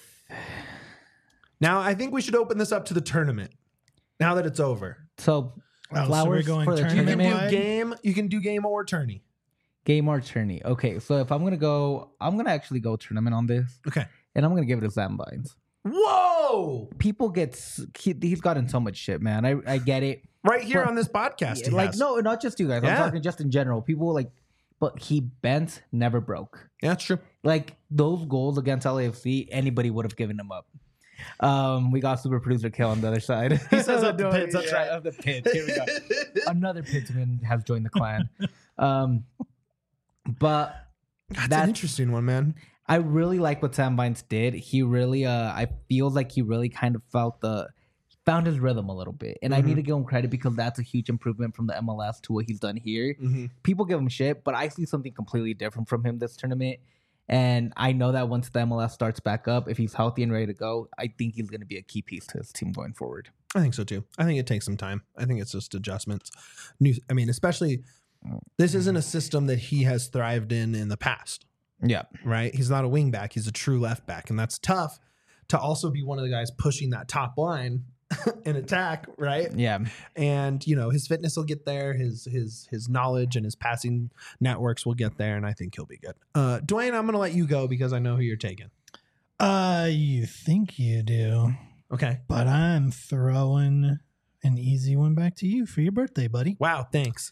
Now I think we should open this up to the tournament. Now that it's over, So Oh, so we're flowers going for the you can tournament do wide? game. You can do game or tourney. game or tourney. Okay, so if I'm gonna go, I'm gonna actually go tournament on this, Okay. and I'm gonna give it to Sam Vines. Whoa! People get s- he, he's gotten so much shit, man. I I get it. Right here But- on this podcast, Yeah, he like has. no, not just you guys. Yeah. I'm talking just in general. People like, but he bent, never broke. Yeah, that's true. Like those goals against L A F C, anybody would have given them up. Um, we got super producer Kill on the other side. He says up the pits, that's Yeah, right. Up the pits. Here we go. Another Pitsman has joined the clan. Um, but That's That- an interesting one, man. I really like what Sam Vines did. He really, uh, I feel like he really kind of felt the found his rhythm a little bit. And Mhm. I need to give him credit because that's a huge improvement from the M L S to what he's done here. Mm-hmm. People give him shit, but I see something completely different from him this tournament. And I know that once the M L S starts back up, if he's healthy and ready to go, I think he's going to be a key piece to his team going forward. I think so too. I think it takes some time. I think it's just adjustments. New, I mean, especially this isn't a system that he has thrived in in the past, Yeah. right? He's not a wing back. He's a true left back. And that's tough to also be one of the guys pushing that top line in attack, right? Yeah. And, you know, his fitness will get there. His his his knowledge and his passing networks will get there. And I think he'll be good. Uh, Dwayne, I'm going to let you go because I know who you're taking. Uh, you think you do, Okay. but I'm throwing an easy one back to you for your birthday, buddy. Wow. Thanks.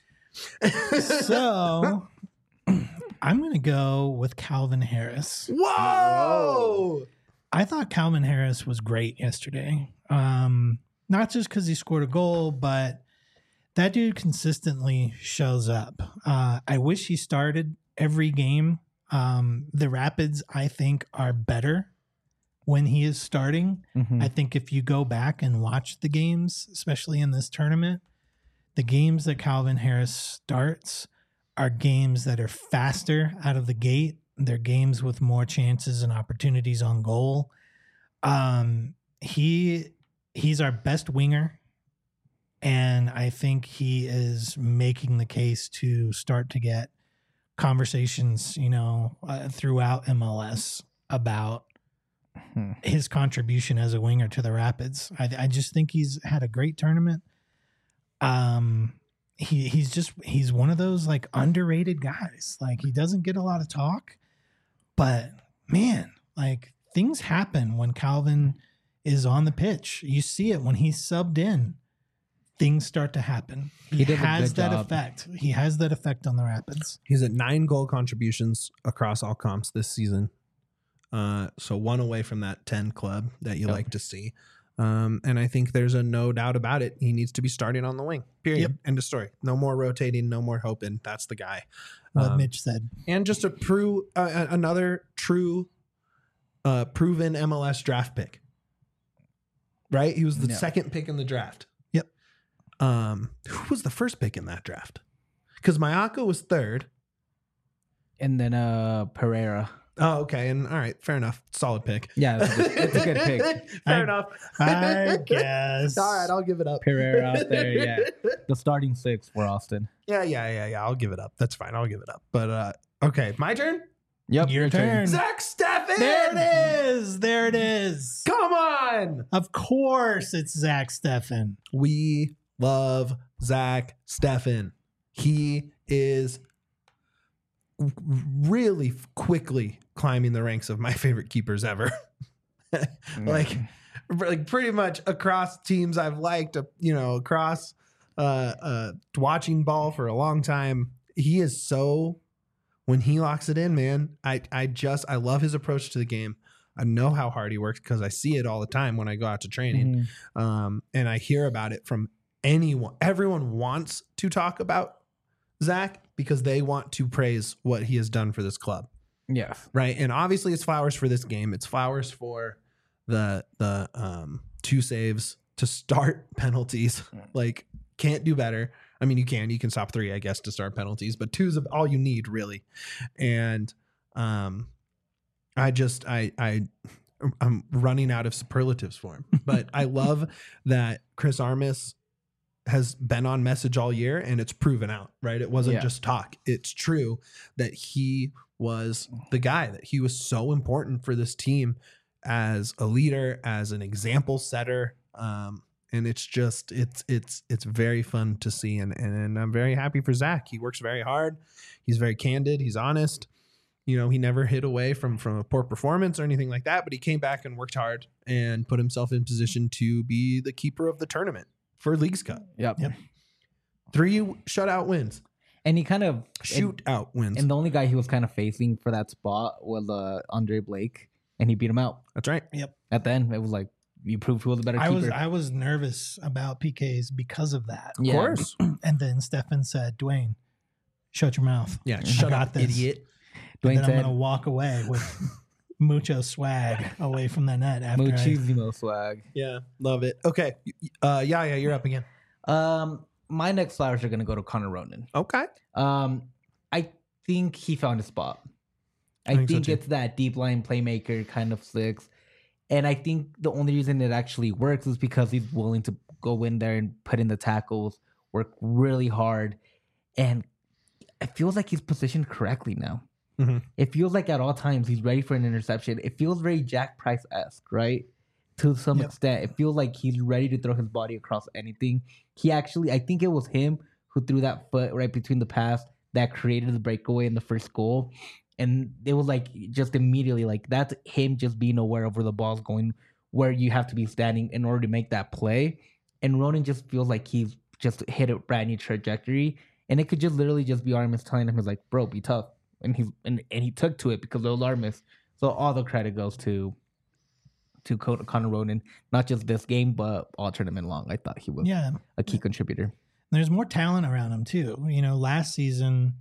So I'm going to go with Calvin Harris. Whoa. I thought Calvin Harris was great yesterday. Um, not just because he scored a goal, but that dude consistently shows up. Uh, I wish he started every game. Um, the Rapids, I think, are better when he is starting. Mhm. I think if you go back and watch the games, especially in this tournament, the games that Calvin Harris starts are games that are faster out of the gate. They're games with more chances and opportunities on goal. Um, he he's our best winger, and I think he is making the case to start to get conversations, you know, uh, throughout M L S about Hmm. his contribution as a winger to the Rapids. I, I just think he's had a great tournament. Um, he he's just he's one of those like underrated guys. Like he doesn't get a lot of talk, but man, like things happen when Calvin is on the pitch. You see it when he's subbed in. Things start to happen. He, He did a has good that job. effect. He has that effect on the Rapids. He's at nine goal contributions across all comps this season. Uh, so one away from that ten club that you Yep. like to see. Um, and I think there's a no doubt about it. He needs to be starting on the wing. Period. Yep. End of story. No more rotating. No more hoping. That's the guy. What Um, Mitch said. and just a prove uh, another true, uh, proven M L S draft pick. Right. He was the Yeah. second pick in the draft. Yep. Um, who was the first pick in that draft? Because Mayako was third. And then uh Pereira. Oh, okay. And all right, fair enough. Solid pick. Yeah, it's a good, it's a good pick. Fair I- enough. I guess. All right, I'll give it up. Pereira out there, yeah. The starting six for Austin. Yeah, yeah, yeah, yeah. I'll give it up. That's fine. I'll give it up. But uh okay, my turn. Yep. Your turn. Zach Steffen. There it is. There it is. Come on. Of course, it's Zach Steffen. We love Zach Steffen. He is really quickly climbing the ranks of my favorite keepers ever. like, like pretty much across teams I've liked, uh, you know, across uh, uh, watching ball for a long time. He is so, when he locks it in, man, I, I just, I love his approach to the game. I know how hard he works because I see it all the time when I go out to training. Mhm. Um, and I hear about it from anyone. Everyone wants to talk about Zach because they want to praise what he has done for this club. Yeah. Right. And obviously it's flowers for this game. It's flowers for the the um two saves to start penalties. Like can't do better. I mean, you can, you can stop three, I guess, to start penalties, but two is all you need really. And um I just I I I'm running out of superlatives for him. But I love that Chris Armas has been on message all year and it's proven out, right? It wasn't Yeah. just talk. It's true that he was the guy, that he was so important for this team as a leader, as an example setter. Um, and it's just, it's, it's, it's very fun to see. And, and I'm very happy for Zach. He works very hard. He's very candid. He's honest. You know, he never hid away from, from a poor performance or anything like that, but he came back and worked hard and put himself in position to be the keeper of the tournament for Leagues Cup. Yep. Yep. Three shutout wins, And he kind of shoot out wins. And the only guy he was kind of facing for that spot was uh, Andre Blake, and he beat him out. That's right. At the end, it was like you proved who was the better I keeper. was I was nervous about P Ks because of that. Of Yeah. course. And then Stefan said, Dwayne, shut your mouth. Yeah. I Shut got up, this. idiot. And Dwayne then I'm said, going to walk away with mucho swag away from the net after I, Muchísimo swag. Yeah, love it. Okay, uh, yeah, yeah, you're up again. Um, my next flowers are gonna go to Connor Ronan. Okay. Um, I think he found a spot. I, I think think, so too. it's that deep line playmaker kind of flicks. And I think the only reason it actually works is because he's willing to go in there and put in the tackles, work really hard. And it feels like he's positioned correctly now. Mm-hmm. It feels like at all times he's ready for an interception. It feels very Jack Price-esque, right? To some Yep. extent. It feels like he's ready to throw his body across anything. He actually, I think it was him who threw that foot right between the pass that created the breakaway in the first goal. And it was like just immediately like that's him just being aware of where the ball's going, where you have to be standing in order to make that play. And Ronan just feels like he's just hit a brand new trajectory. And it could just literally just be Armis telling him, he's like, bro, be tough. And he and, and he took to it because of Armis. So all the credit goes to to Connor Ronan, not just this game, but all tournament long. I thought he was yeah. a key contributor. There's more talent around him too. You know, last season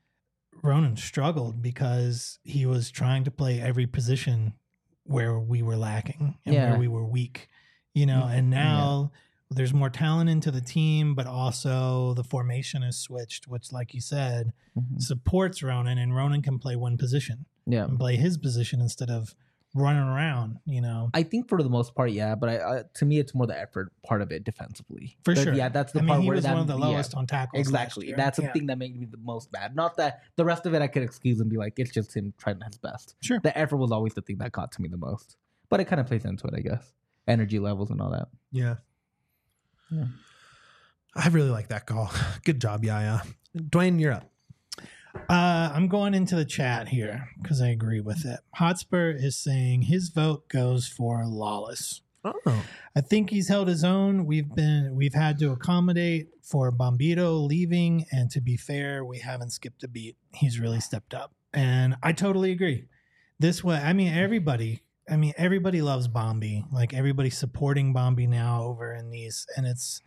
Ronan struggled because he was trying to play every position where we were lacking and Yeah. where we were weak. You know, and now there's more talent into the team, but also the formation is switched, which, like you said, Mhm. supports Ronan, and Ronan can play one position Yeah. and play his position instead of running around, you know. I think for the most part, yeah, but I, I to me, it's more the effort part of it defensively. For But sure. Yeah, that's the I mean, part he where was that, one of the yeah, lowest on tackles. last exactly. year. That's the Yeah. thing that made me the most mad. Not that the rest of it I could excuse and be like, it's just him trying his best. Sure. The effort was always the thing that got to me the most. But it kind of plays into it, I guess. Energy levels and all that. Yeah. Yeah. I really like that call. Good job, Yaya. Dwayne, you're up. Uh, I'm going into the chat here because I agree with it. Hotspur is saying his vote goes for Lawless. Oh. I think he's held his own. We've been we've had to accommodate for Bombito leaving, and to be fair, we haven't skipped a beat. He's really stepped up, and I totally agree. This way, I mean, everybody. I mean, everybody loves Bombi. Like everybody's supporting Bombi now over in these, and it's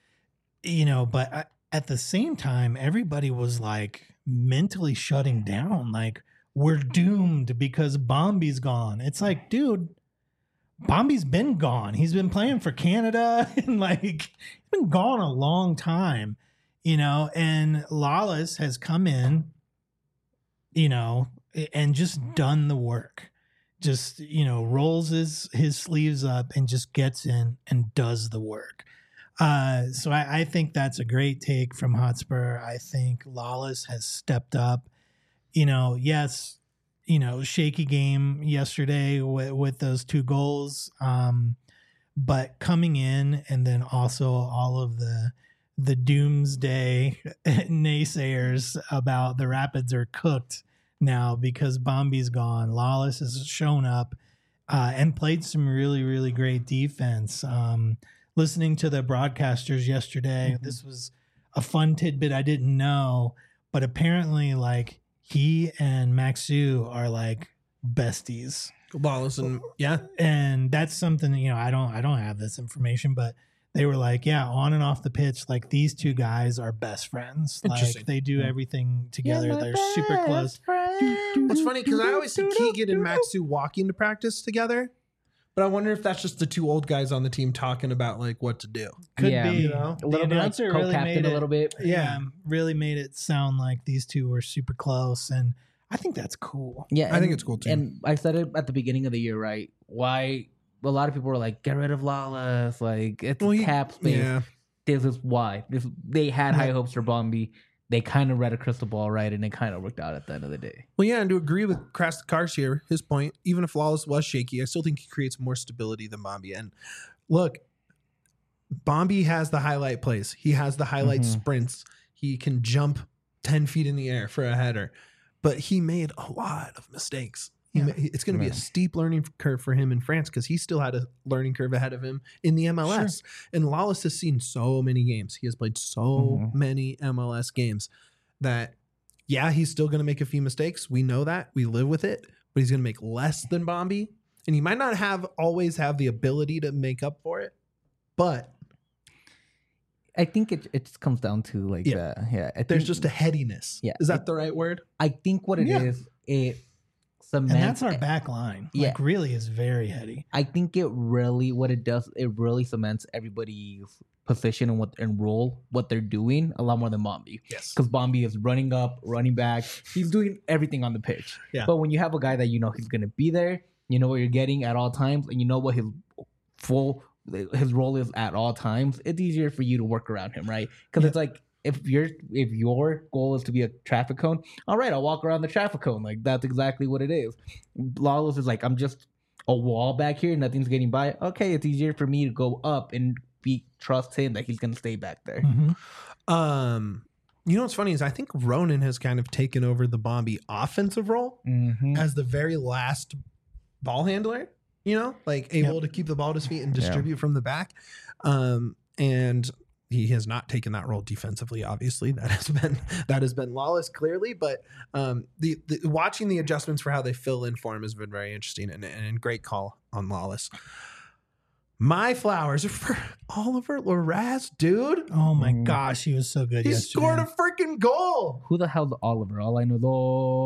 you know, but I, at the same time, everybody was like mentally shutting down. Like we're doomed because Bombi's gone. It's like, dude. Bombi's been gone. He's been playing for Canada and like he's been gone a long time, you know, and Lawless has come in, you know, and just done the work. Just, you know, rolls his his sleeves up and just gets in and does the work. Uh, so I, I think that's a great take from Hotspur. I think Lawless has stepped up. You know, yes, you know, shaky game yesterday with, with those two goals. Um, but coming in and then also all of the the doomsday naysayers about the Rapids are cooked now because Bombi's gone. Lawless has shown up uh, and played some really, really great defense. Um, listening to the broadcasters yesterday, mm-hmm. This was a fun tidbit I didn't know, but apparently like he and Maxu are like besties. Lawless and yeah. And that's something, you know, I don't I don't have this information, but they were like, yeah, on and off the pitch, like these two guys are best friends. Like they do everything together. You're They're super close. It's funny because I always see Keegan and Maxu walking to practice together, but I wonder if that's just the two old guys on the team talking about like what to do. Could Yeah. be. You know? A little The bit like announcer really co-captain made a it- little bit. Yeah, really made it sound like these two were super close, and I think that's cool. Yeah, I think and- it's cool, too. And I said it at the beginning of the year, right? Why a lot of people were like, "Get rid of Lawless," like it's Well, he- cap space. Yeah. This is why. This they had high Yeah. hopes for Bombi. They kind of read a crystal ball right, and it kind of worked out at the end of the day. Well, yeah, and to agree with Cars here, his point, even if Lawless was shaky, I still think he creates more stability than Bombi. And look, Bombi has the highlight plays. He has the highlight Mhm. sprints. He can jump ten feet in the air for a header. But he made a lot of mistakes. He Yeah. ma- it's going to be Yeah. a steep learning curve for him in France because he still had a learning curve ahead of him in the M L S. And Lawless has seen so many games. He has played so Mhm. many M L S games that, yeah, he's still going to make a few mistakes. We know that. We live with it. But he's going to make less than Bombi. And he might not have always have the ability to make up for it. But I think it it just comes down to like Yeah. yeah, yeah. I there's think- just a headiness. Yeah. Is that the right word? I think what it Yeah. is, it cements. And that's our back line. Yeah. Like, really is very heady. I think it really, what it does, it really cements everybody's position and what and role, what they're doing a lot more than Bombi. Yes. Because Bombi is running up, running back. He's doing everything on the pitch. Yeah. But when you have a guy that you know he's going to be there, you know what you're getting at all times, and you know what his full, his role is at all times, it's easier for you to work around him, right? Because Yeah. it's like, if your if your goal is to be a traffic cone, all right, I'll walk around the traffic cone. Like, that's exactly what it is. Lawless is like, I'm just a wall back here, nothing's getting by. Okay, it's easier for me to go up and be trust him that he's gonna stay back there. Mm-hmm. Um, you know what's funny is I think Ronan has kind of taken over the Bombi offensive role Mm-hmm. as the very last ball handler. You know, like able to keep the ball at his feet and distribute from the back. Um, and he has not taken that role defensively. Obviously, that has been that has been Lawless clearly. But um, the, the watching the adjustments for how they fill in for him has been very interesting and, and great call on Lawless. My flowers are for Oliver Larraz, dude. Oh my Mm. gosh, he was so good He yesterday. scored a freaking goal. Who the hell's Oliver? All I know is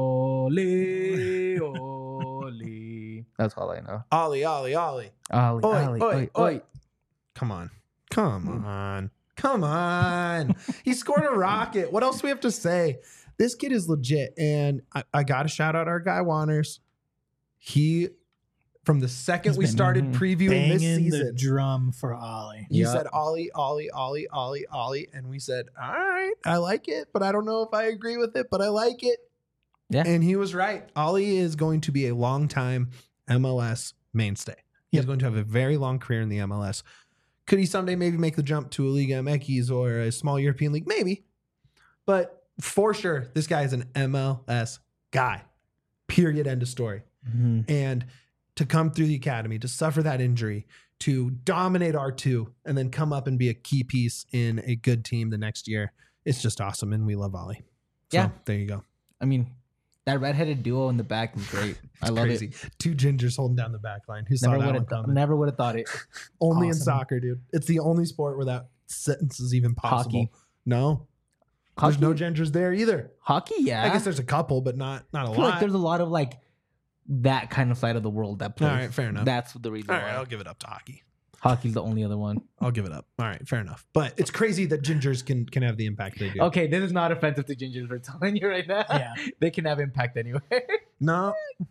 Oli, Oli. That's all I know. Ollie, Ollie, Ollie. Oli, Oi, Oli, oi, oi, oi. oi. Come on. Come on. Come on. He scored a rocket. What else do we have to say? This kid is legit. And I, I got to shout out our guy, Wanners. He, from the second He's we been started previewing this Banging the season, drum for Ollie. he Yeah. said, Ollie, Ollie, Ollie, Ollie, Ollie. And we said, all right, I like it, but I don't know if I agree with it, but I like it. Yeah. And he was right. Ollie is going to be a long time M L S mainstay. He's Yep. going to have a very long career in the M L S. Could he someday maybe make the jump to a Liga M X or a small European league? Maybe. But for sure, this guy is an M L S guy. Period. End of story. Mhm. And to come through the academy, to suffer that injury, to dominate R two, and then come up and be a key piece in a good team the next year, it's just awesome. And we love Ollie. So, Yeah. there you go. I mean, that redheaded duo in the back is great. I love Crazy. it. Two gingers holding down the back line. Who saw Never that would one have th- coming? never would have thought it. Only in Awesome. soccer, dude. It's the only sport where that sentence is even possible. Hockey. No. Hockey, There's no genders there either. hockey, yeah. I guess there's a couple, but not not a I feel lot. like there's a lot of like that kind of side of the world that plays. All right, fair enough. That's the reason All why right, I'll give it up to hockey. hockey's the only other one. I'll give it up. All right, fair enough. But it's crazy that gingers can can have the impact they do. Okay, this is not offensive to gingers. We're telling you right now. Yeah. They can have impact anywhere. No,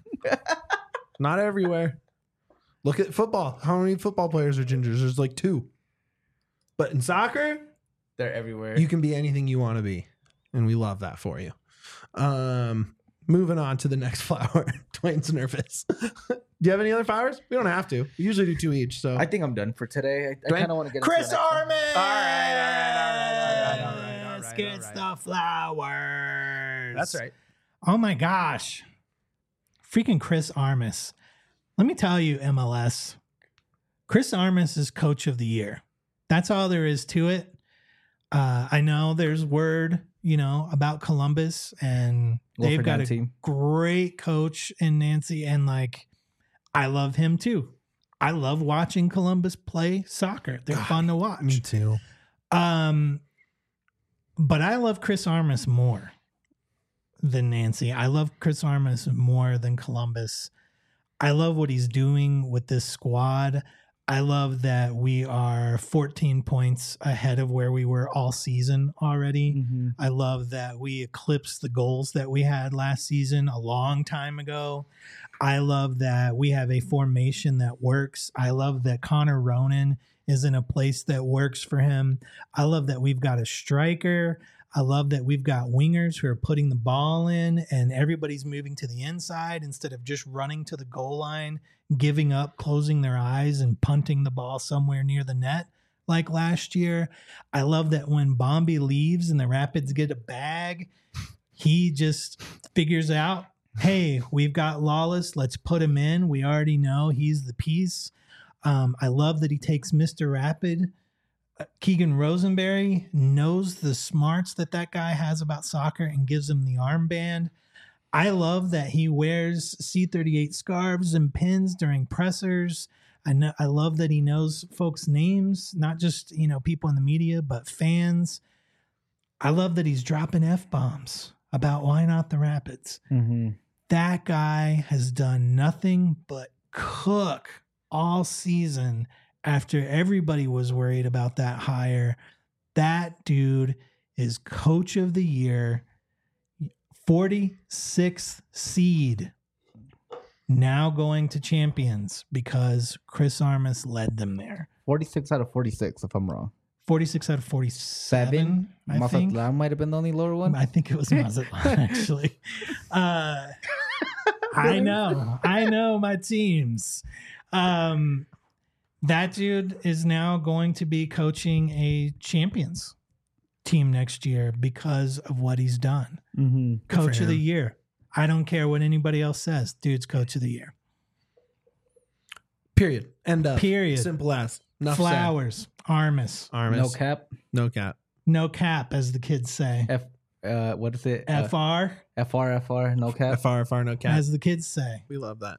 not everywhere. Look at football. How many football players are gingers? There's like two. But in soccer, They're everywhere. you can be anything you want to be, and we love that for you. Um, moving on to the next flower. Dwayne's nervous. Do you have any other flowers? We don't have to. We usually do two each. So I think I'm done for today. I, I Dwayne? kind of want to get Chris into the next one. Armin. All right, all right, all right, all right, all right, all right, Let's all get right. the flowers. that's right. Oh my gosh. Freaking Chris Armas. Let me tell you, M L S, Chris Armas is coach of the year. That's all there is to it. Uh, I know there's word, you know, about Columbus, and they've Wilfred got a Nancy. great coach in Nancy, and like, I love him too. I love watching Columbus play soccer. They're God, fun to watch. Me too. Um, but I love Chris Armas more than Nancy. I love Chris Armas more than Columbus. I love what he's doing with this squad. I love that we are fourteen points ahead of where we were all season already. Mhm. I love that we eclipsed the goals that we had last season a long time ago. I love that we have a formation that works. I love that Connor Ronan is in a place that works for him. I love that we've got a striker. I love that we've got wingers who are putting the ball in and everybody's moving to the inside instead of just running to the goal line, giving up, closing their eyes, and punting the ball somewhere near the net like last year. I love that when Bombi leaves and the Rapids get a bag, he just figures out, hey, we've got Lawless. Let's put him in. We already know he's the piece. Um, I love that he takes Mister Rapid. Uh, Keegan Rosenberry knows the smarts that that guy has about soccer and gives him the armband. I love that he wears C thirty-eight scarves and pins during pressers. I know, I love that he knows folks' names, not just, you know, people in the media, but fans. I love that he's dropping F-bombs about why not the Rapids. Mhm. That guy has done nothing but cook all season after everybody was worried about that hire. That dude is coach of the year, forty-sixth seed, now going to champions because Chris Armas led them there. forty-six out of forty-six, if I'm wrong. forty-six out of forty-seven, Seven. I think. Mazatlan might have been the only lower one. I think it was Mazatlan, actually. Uh, I know. I know my teams. Um, that dude is now going to be coaching a champions team next year because of what he's done. Mm-hmm. Coach for of the him. year. I don't care what anybody else says. Dude's coach of the year. Period. End up. Period. Simple as. Enough Flowers. Armas. said. Armas. No cap. No cap. No cap, as the kids say. F. Uh, what is it? F R, Uh, F R. F R. No cap. F R F R. No cap. as the kids say. We love that.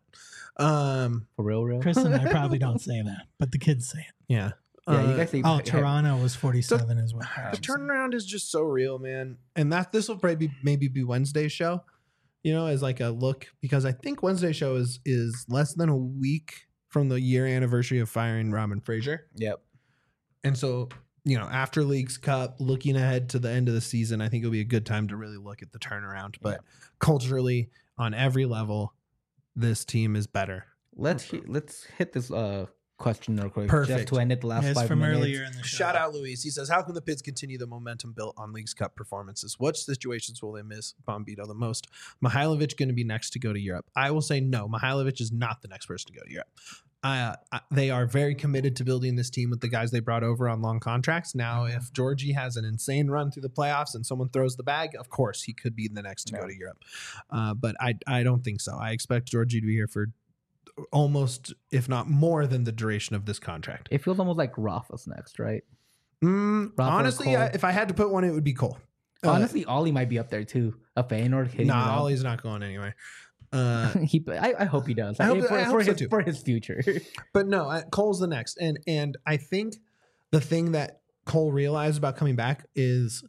Um. For real, real. Chris and I probably don't say that, but the kids say it. Yeah. Yeah, Uh, you guys say. Oh, Toronto was forty-seven as well. The turnaround is just so real, man. And that this will probably be, maybe be Wednesday's show, you know, as like a look, because I think Wednesday's show is is less than a week from the year anniversary of firing Robin Fraser. Yep. And so, you know, after Leagues Cup, looking ahead to the end of the season, I think it'll be a good time to really look at the turnaround. But culturally, on every level, this team is better. Let's he- let's hit this uh question real quick. Perfect. Just to end it the last It's five from minutes. earlier in the show. Shout out Luis. He says, how can the Pids continue the momentum built on Leagues Cup performances? What situations will they miss Bombito the most? Mihailovic going to be next to go to Europe? I will say no. Mihailovic is not the next person to go to Europe. Uh, I- they are very committed to building this team with the guys they brought over on long contracts. Now, if Georgie has an insane run through the playoffs and someone throws the bag, of course, he could be the next to Yeah. go to Europe. Uh, but I, I don't think so. I expect Georgie to be here for almost, if not more than the duration of this contract. It feels almost like Rafa's next, right? Mm, Rafa honestly, Cole. I, if I had to put one, it would be Cole. Uh, Honestly, Ollie might be up there too. A Feyenoord hitting. nah, it up. Ollie's not going anywhere. Uh, he, I, I hope he does. I hope- for, I hope for so his too. for his future. but no, I, Cole's the next, and and I think the thing that Cole realized about coming back is,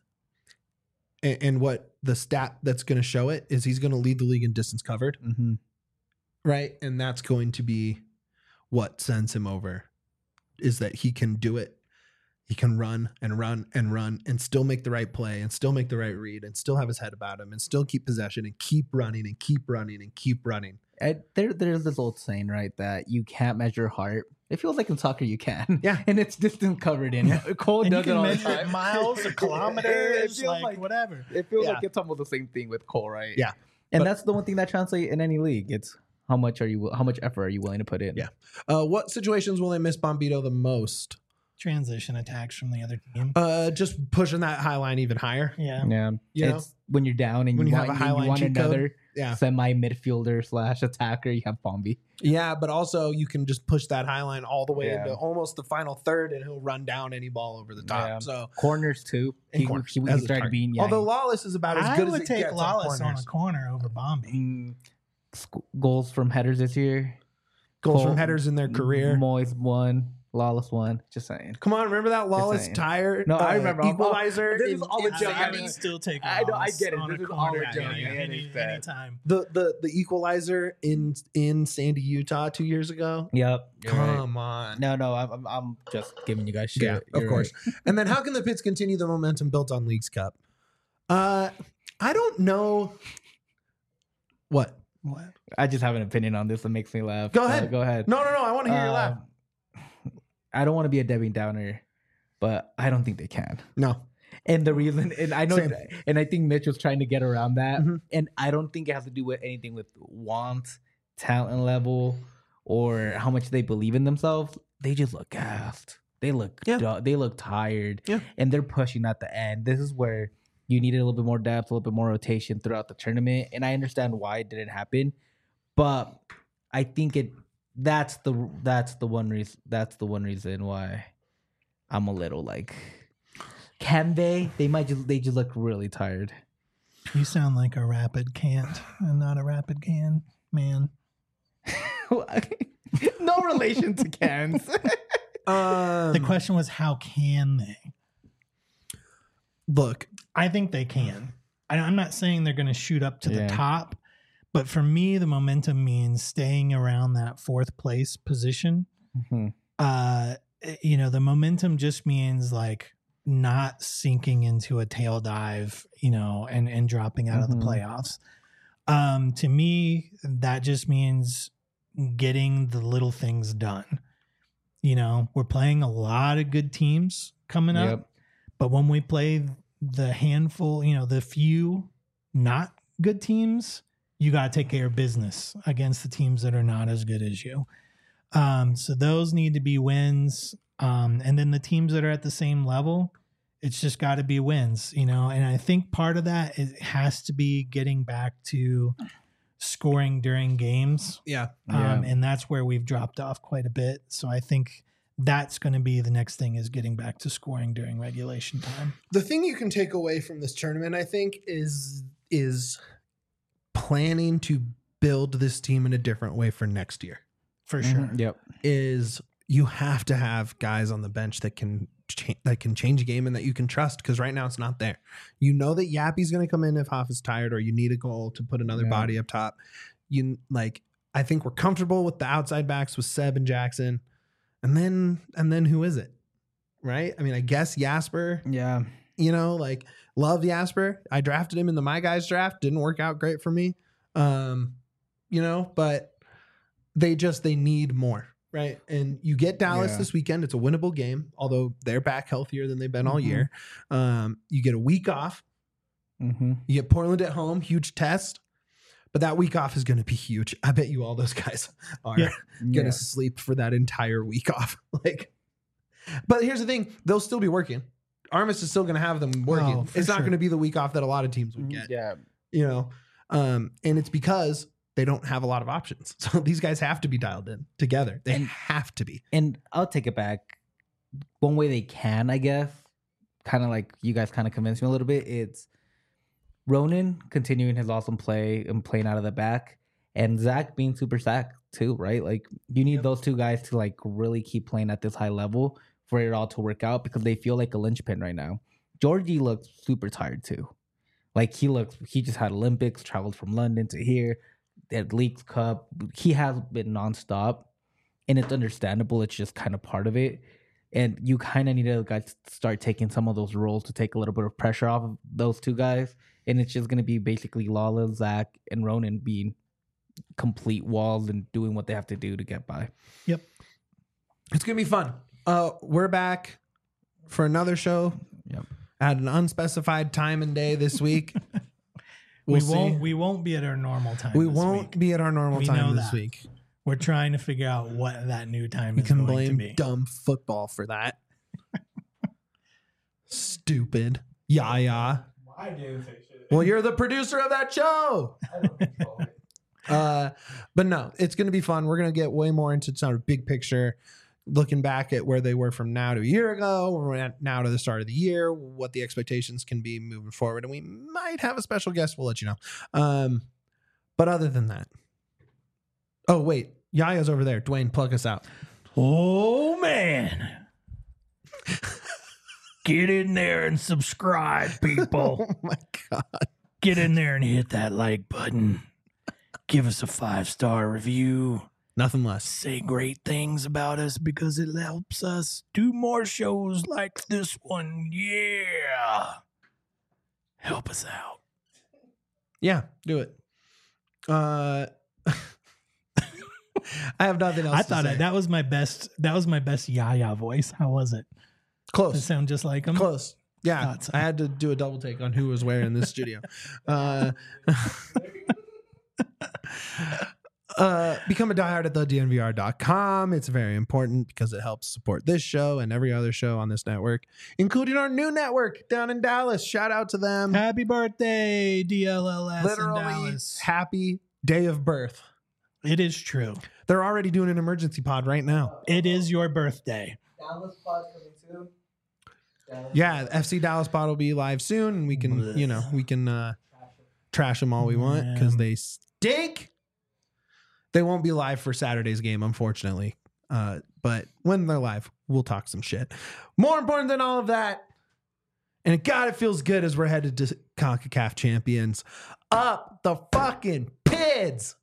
and, and what the stat that's going to show it is, he's going to lead the league in distance covered, mm-hmm. right? And that's going to be what sends him over, is that he can do it. He can run and run and run and still make the right play and still make the right read and still have his head about him and still keep possession and keep running and keep running and keep running. And there, there's this old saying, right, that you can't measure heart. It feels like in soccer you can. Yeah. And it's distance covered in. Yeah. Cole And you does it can all the measure it time. miles or It kilometers, feels like, like- whatever. It feels Yeah. like it's almost the same thing with Cole, right? Yeah. And But- that's the one thing that translates in any league. It's how much are you, how much effort are you willing to put in? Yeah. Uh, what situations will they miss Bombito the most? Transition attacks from the other team. Uh, just pushing that high line even higher. Yeah. Yeah. You know? It's when you're down and When you, you have want, a high you line want cheat code. another Yeah. semi midfielder slash attacker, you have Bombi. Yeah, but also you can just push that high line all the way Yeah. into almost the final third, and he'll run down any ball over the top. Yeah. So, Corners too. And He, corners he, he as a started target. being yeah, although Lawless is about as I good as would it take gets Lawless on on corners. a corner over Bombi. mm, sc- goals from headers this year. Goals Cole- from headers in their career. Moyes won. Lawless won. Just saying. Come on, remember that Lawless saying. tire? No, I uh, remember. I'm- equalizer. this in- is all in a I, joke. I Sandy- would still take I know, I Lawless get it. on This a is all a corner joke. any- I any- understand. anytime. the the the equalizer in in Sandy, Utah, two years ago. Yep. you're right. Come on. No, no, I'm, I'm, I'm just giving you guys shit. Yeah, of You're course. right. And then how can the Pits continue the momentum built on Leagues Cup? Uh, I don't know. What? What? I just have an opinion on this that makes me laugh. Go Uh, ahead. go ahead. No, no, no. I want to hear your laugh. Um, I don't want to be a Debbie Downer, but I don't think they can. No. And the reason, and I know, Same. and I think Mitch was trying to get around that. Mhm. And I don't think it has to do with anything with want, talent level, or how much they believe in themselves. They just look gassed. They look, Yeah. du- they look tired. Yeah. And they're pushing at the end. This is where you needed a little bit more depth, a little bit more rotation throughout the tournament. And I understand why it didn't happen, but I think it. That's the that's the one reason. That's the one reason why I'm a little like. Can they? They might just. They just look really tired. You sound like a rapid can't and not a rapid can, man. No relation to cans. Um, The question was, how can they? look, I think they can. I- I'm not saying they're going to shoot up to Yeah. the top, But for me, the momentum means staying around that fourth place position. Mhm. Uh, you know, the momentum just means like not sinking into a tail dive, you know, and, and dropping out Mhm. of the playoffs. Um, to me, that just means getting the little things done. You know, we're playing a lot of good teams coming up, Yep. but when we play the handful, you know, the few not good teams, you got to take care of business against the teams that are not as good as you. Um, so those need to be wins. Um, and then the teams that are at the same level, it's just got to be wins, you know. And I think part of that is, has to be getting back to scoring during games. Yeah. Um, Yeah. and that's where we've dropped off quite a bit. So I think that's going to be the next thing, is getting back to scoring during regulation time. The thing you can take away from this tournament, I think, is is planning to build this team in a different way for next year. For sure. Mhm. Yep. Is you have to have guys on the bench that can cha- that can change a game and that you can trust, because right now it's not there. You know that Yappy's going to come in if Hoff is tired, or you need a goal to put another Yeah. body up top. You like, I think we're comfortable with the outside backs with Seb and Jackson, and then and then who is it? Right? I mean, I guess Jasper. Yeah. You know, like, love Jasper. I drafted him in the My Guys draft. Didn't work out great for me. Um, you know, but they just they need more. Right. And you get Dallas Yeah. this weekend. It's a winnable game, although they're back healthier than they've been all Mhm. year. Um, you get a week off. Mm-hmm. You get Portland at home, huge test. But that week off is going to be huge. I bet you all those guys are Yeah. going to sleep for that entire week off. Like, but here's the thing: they'll still be working. Armis is still going to have them working. Oh, for it's not sure. going to be the week off that a lot of teams would get. Yeah. You know, um, and it's because they don't have a lot of options. So these guys have to be dialed in together. They And- have to be. And I'll take it back. One way they can, I guess, kind of like you guys kind of convinced me a little bit. It's Ronan continuing his awesome play and playing out of the back, and Zach being super sack too, right? Like, you need Yep. those two guys to like really keep playing at this high level for it all to work out, because they feel like a linchpin right now. Georgie looks super tired too. Like, he looks, he just had Olympics, traveled from London to here, at Leagues Cup. He has been nonstop, and it's understandable. It's just kind of part of it. And you kind of need to guys start taking some of those roles to take a little bit of pressure off of those two guys. And it's just going to be basically Lala, Zach, and Ronan being complete walls and doing what they have to do to get by. Yep. It's going to be fun. Uh, we're back for another show Yep. at an unspecified time and day this week. We'll we see. won't. We won't be at our normal time. We this won't week. be at our normal We time know this that. week. We're trying to figure out what that new time You is can going to blame be. dumb football for that. Stupid. Yeah, yeah. I do say shit. Well, you're the producer of that show. Uh, but no, it's going to be fun. We're going to get way more into sort of big picture, looking back at where they were from now to a year ago, we're at now to the start of the year, what the expectations can be moving forward. And we might have a special guest. We'll let you know. Um, but other than that, oh, wait, Yaya's over there. Dwayne, plug us out. Oh man. Get in there and subscribe, people. Oh my God. Get in there and hit that like button. Give us a five-star review. Nothing less. Say great things about us, because it helps us do more shows like this one. Yeah. Help us out. Yeah, do it. Uh, I have nothing else I to thought say. I, that was my best. That was my best Yaya voice. How was it? Does it Close. sound just like him? Close. Yeah, Thought so. I had to do a double take on who was where in this studio. Uh, uh, become a diehard at the D N V R dot com. It's very important because it helps support this show and every other show on this network, including our new network down in Dallas. Shout out to them. Happy birthday, D L L S in Literally Dallas. happy day of birth. It is true. They're already doing an emergency pod right now. It is your birthday. Dallas pod coming soon. Yeah, F C Dallas pod will be live soon, and we can, you know, we can uh, trash them all we want because they stink. They won't be live for Saturday's game, unfortunately. Uh, but when they're live, we'll talk some shit. More important than all of that, and God, it feels good as we're headed to CONCACAF champions. Up the fucking pit. kids.